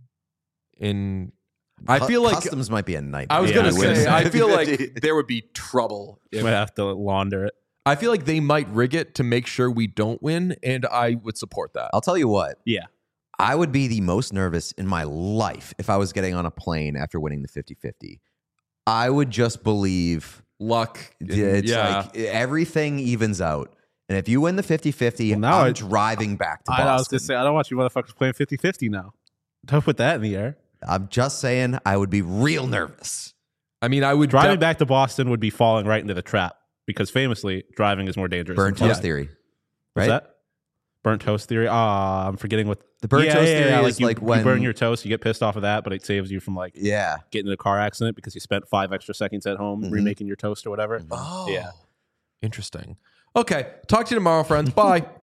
In, I Cu- feel like, customs might be a nightmare. I was Yeah, going I to was gonna say, say. I feel like there would be trouble. if- Might have to launder it. I feel like they might rig it to make sure we don't win, and I would support that. I'll tell you what. Yeah. I would be the most nervous in my life if I was getting on a plane after winning the fifty-fifty. I would just believe Luck. and- it's yeah. like everything evens out. And if you win the fifty-fifty, Well, now I'm I- driving back to I, Boston. I was going to say, I don't want you motherfuckers playing fifty-fifty now. Don't put that in the air. I'm just saying I would be real nervous. I mean, I would Driving def- back to Boston would be falling right into the trap because famously, driving is more dangerous. Burnt than toast flying. theory. What's Right? that? Burnt toast theory? Ah, I'm forgetting what The burnt yeah, toast yeah, theory yeah, is you, like you when burn your toast, you get pissed off of that, but it saves you from like Yeah. getting in a car accident because you spent five extra seconds at home Mhm. remaking your toast or whatever. Oh, Yeah. Interesting. Okay. Talk to you tomorrow, friends. Bye.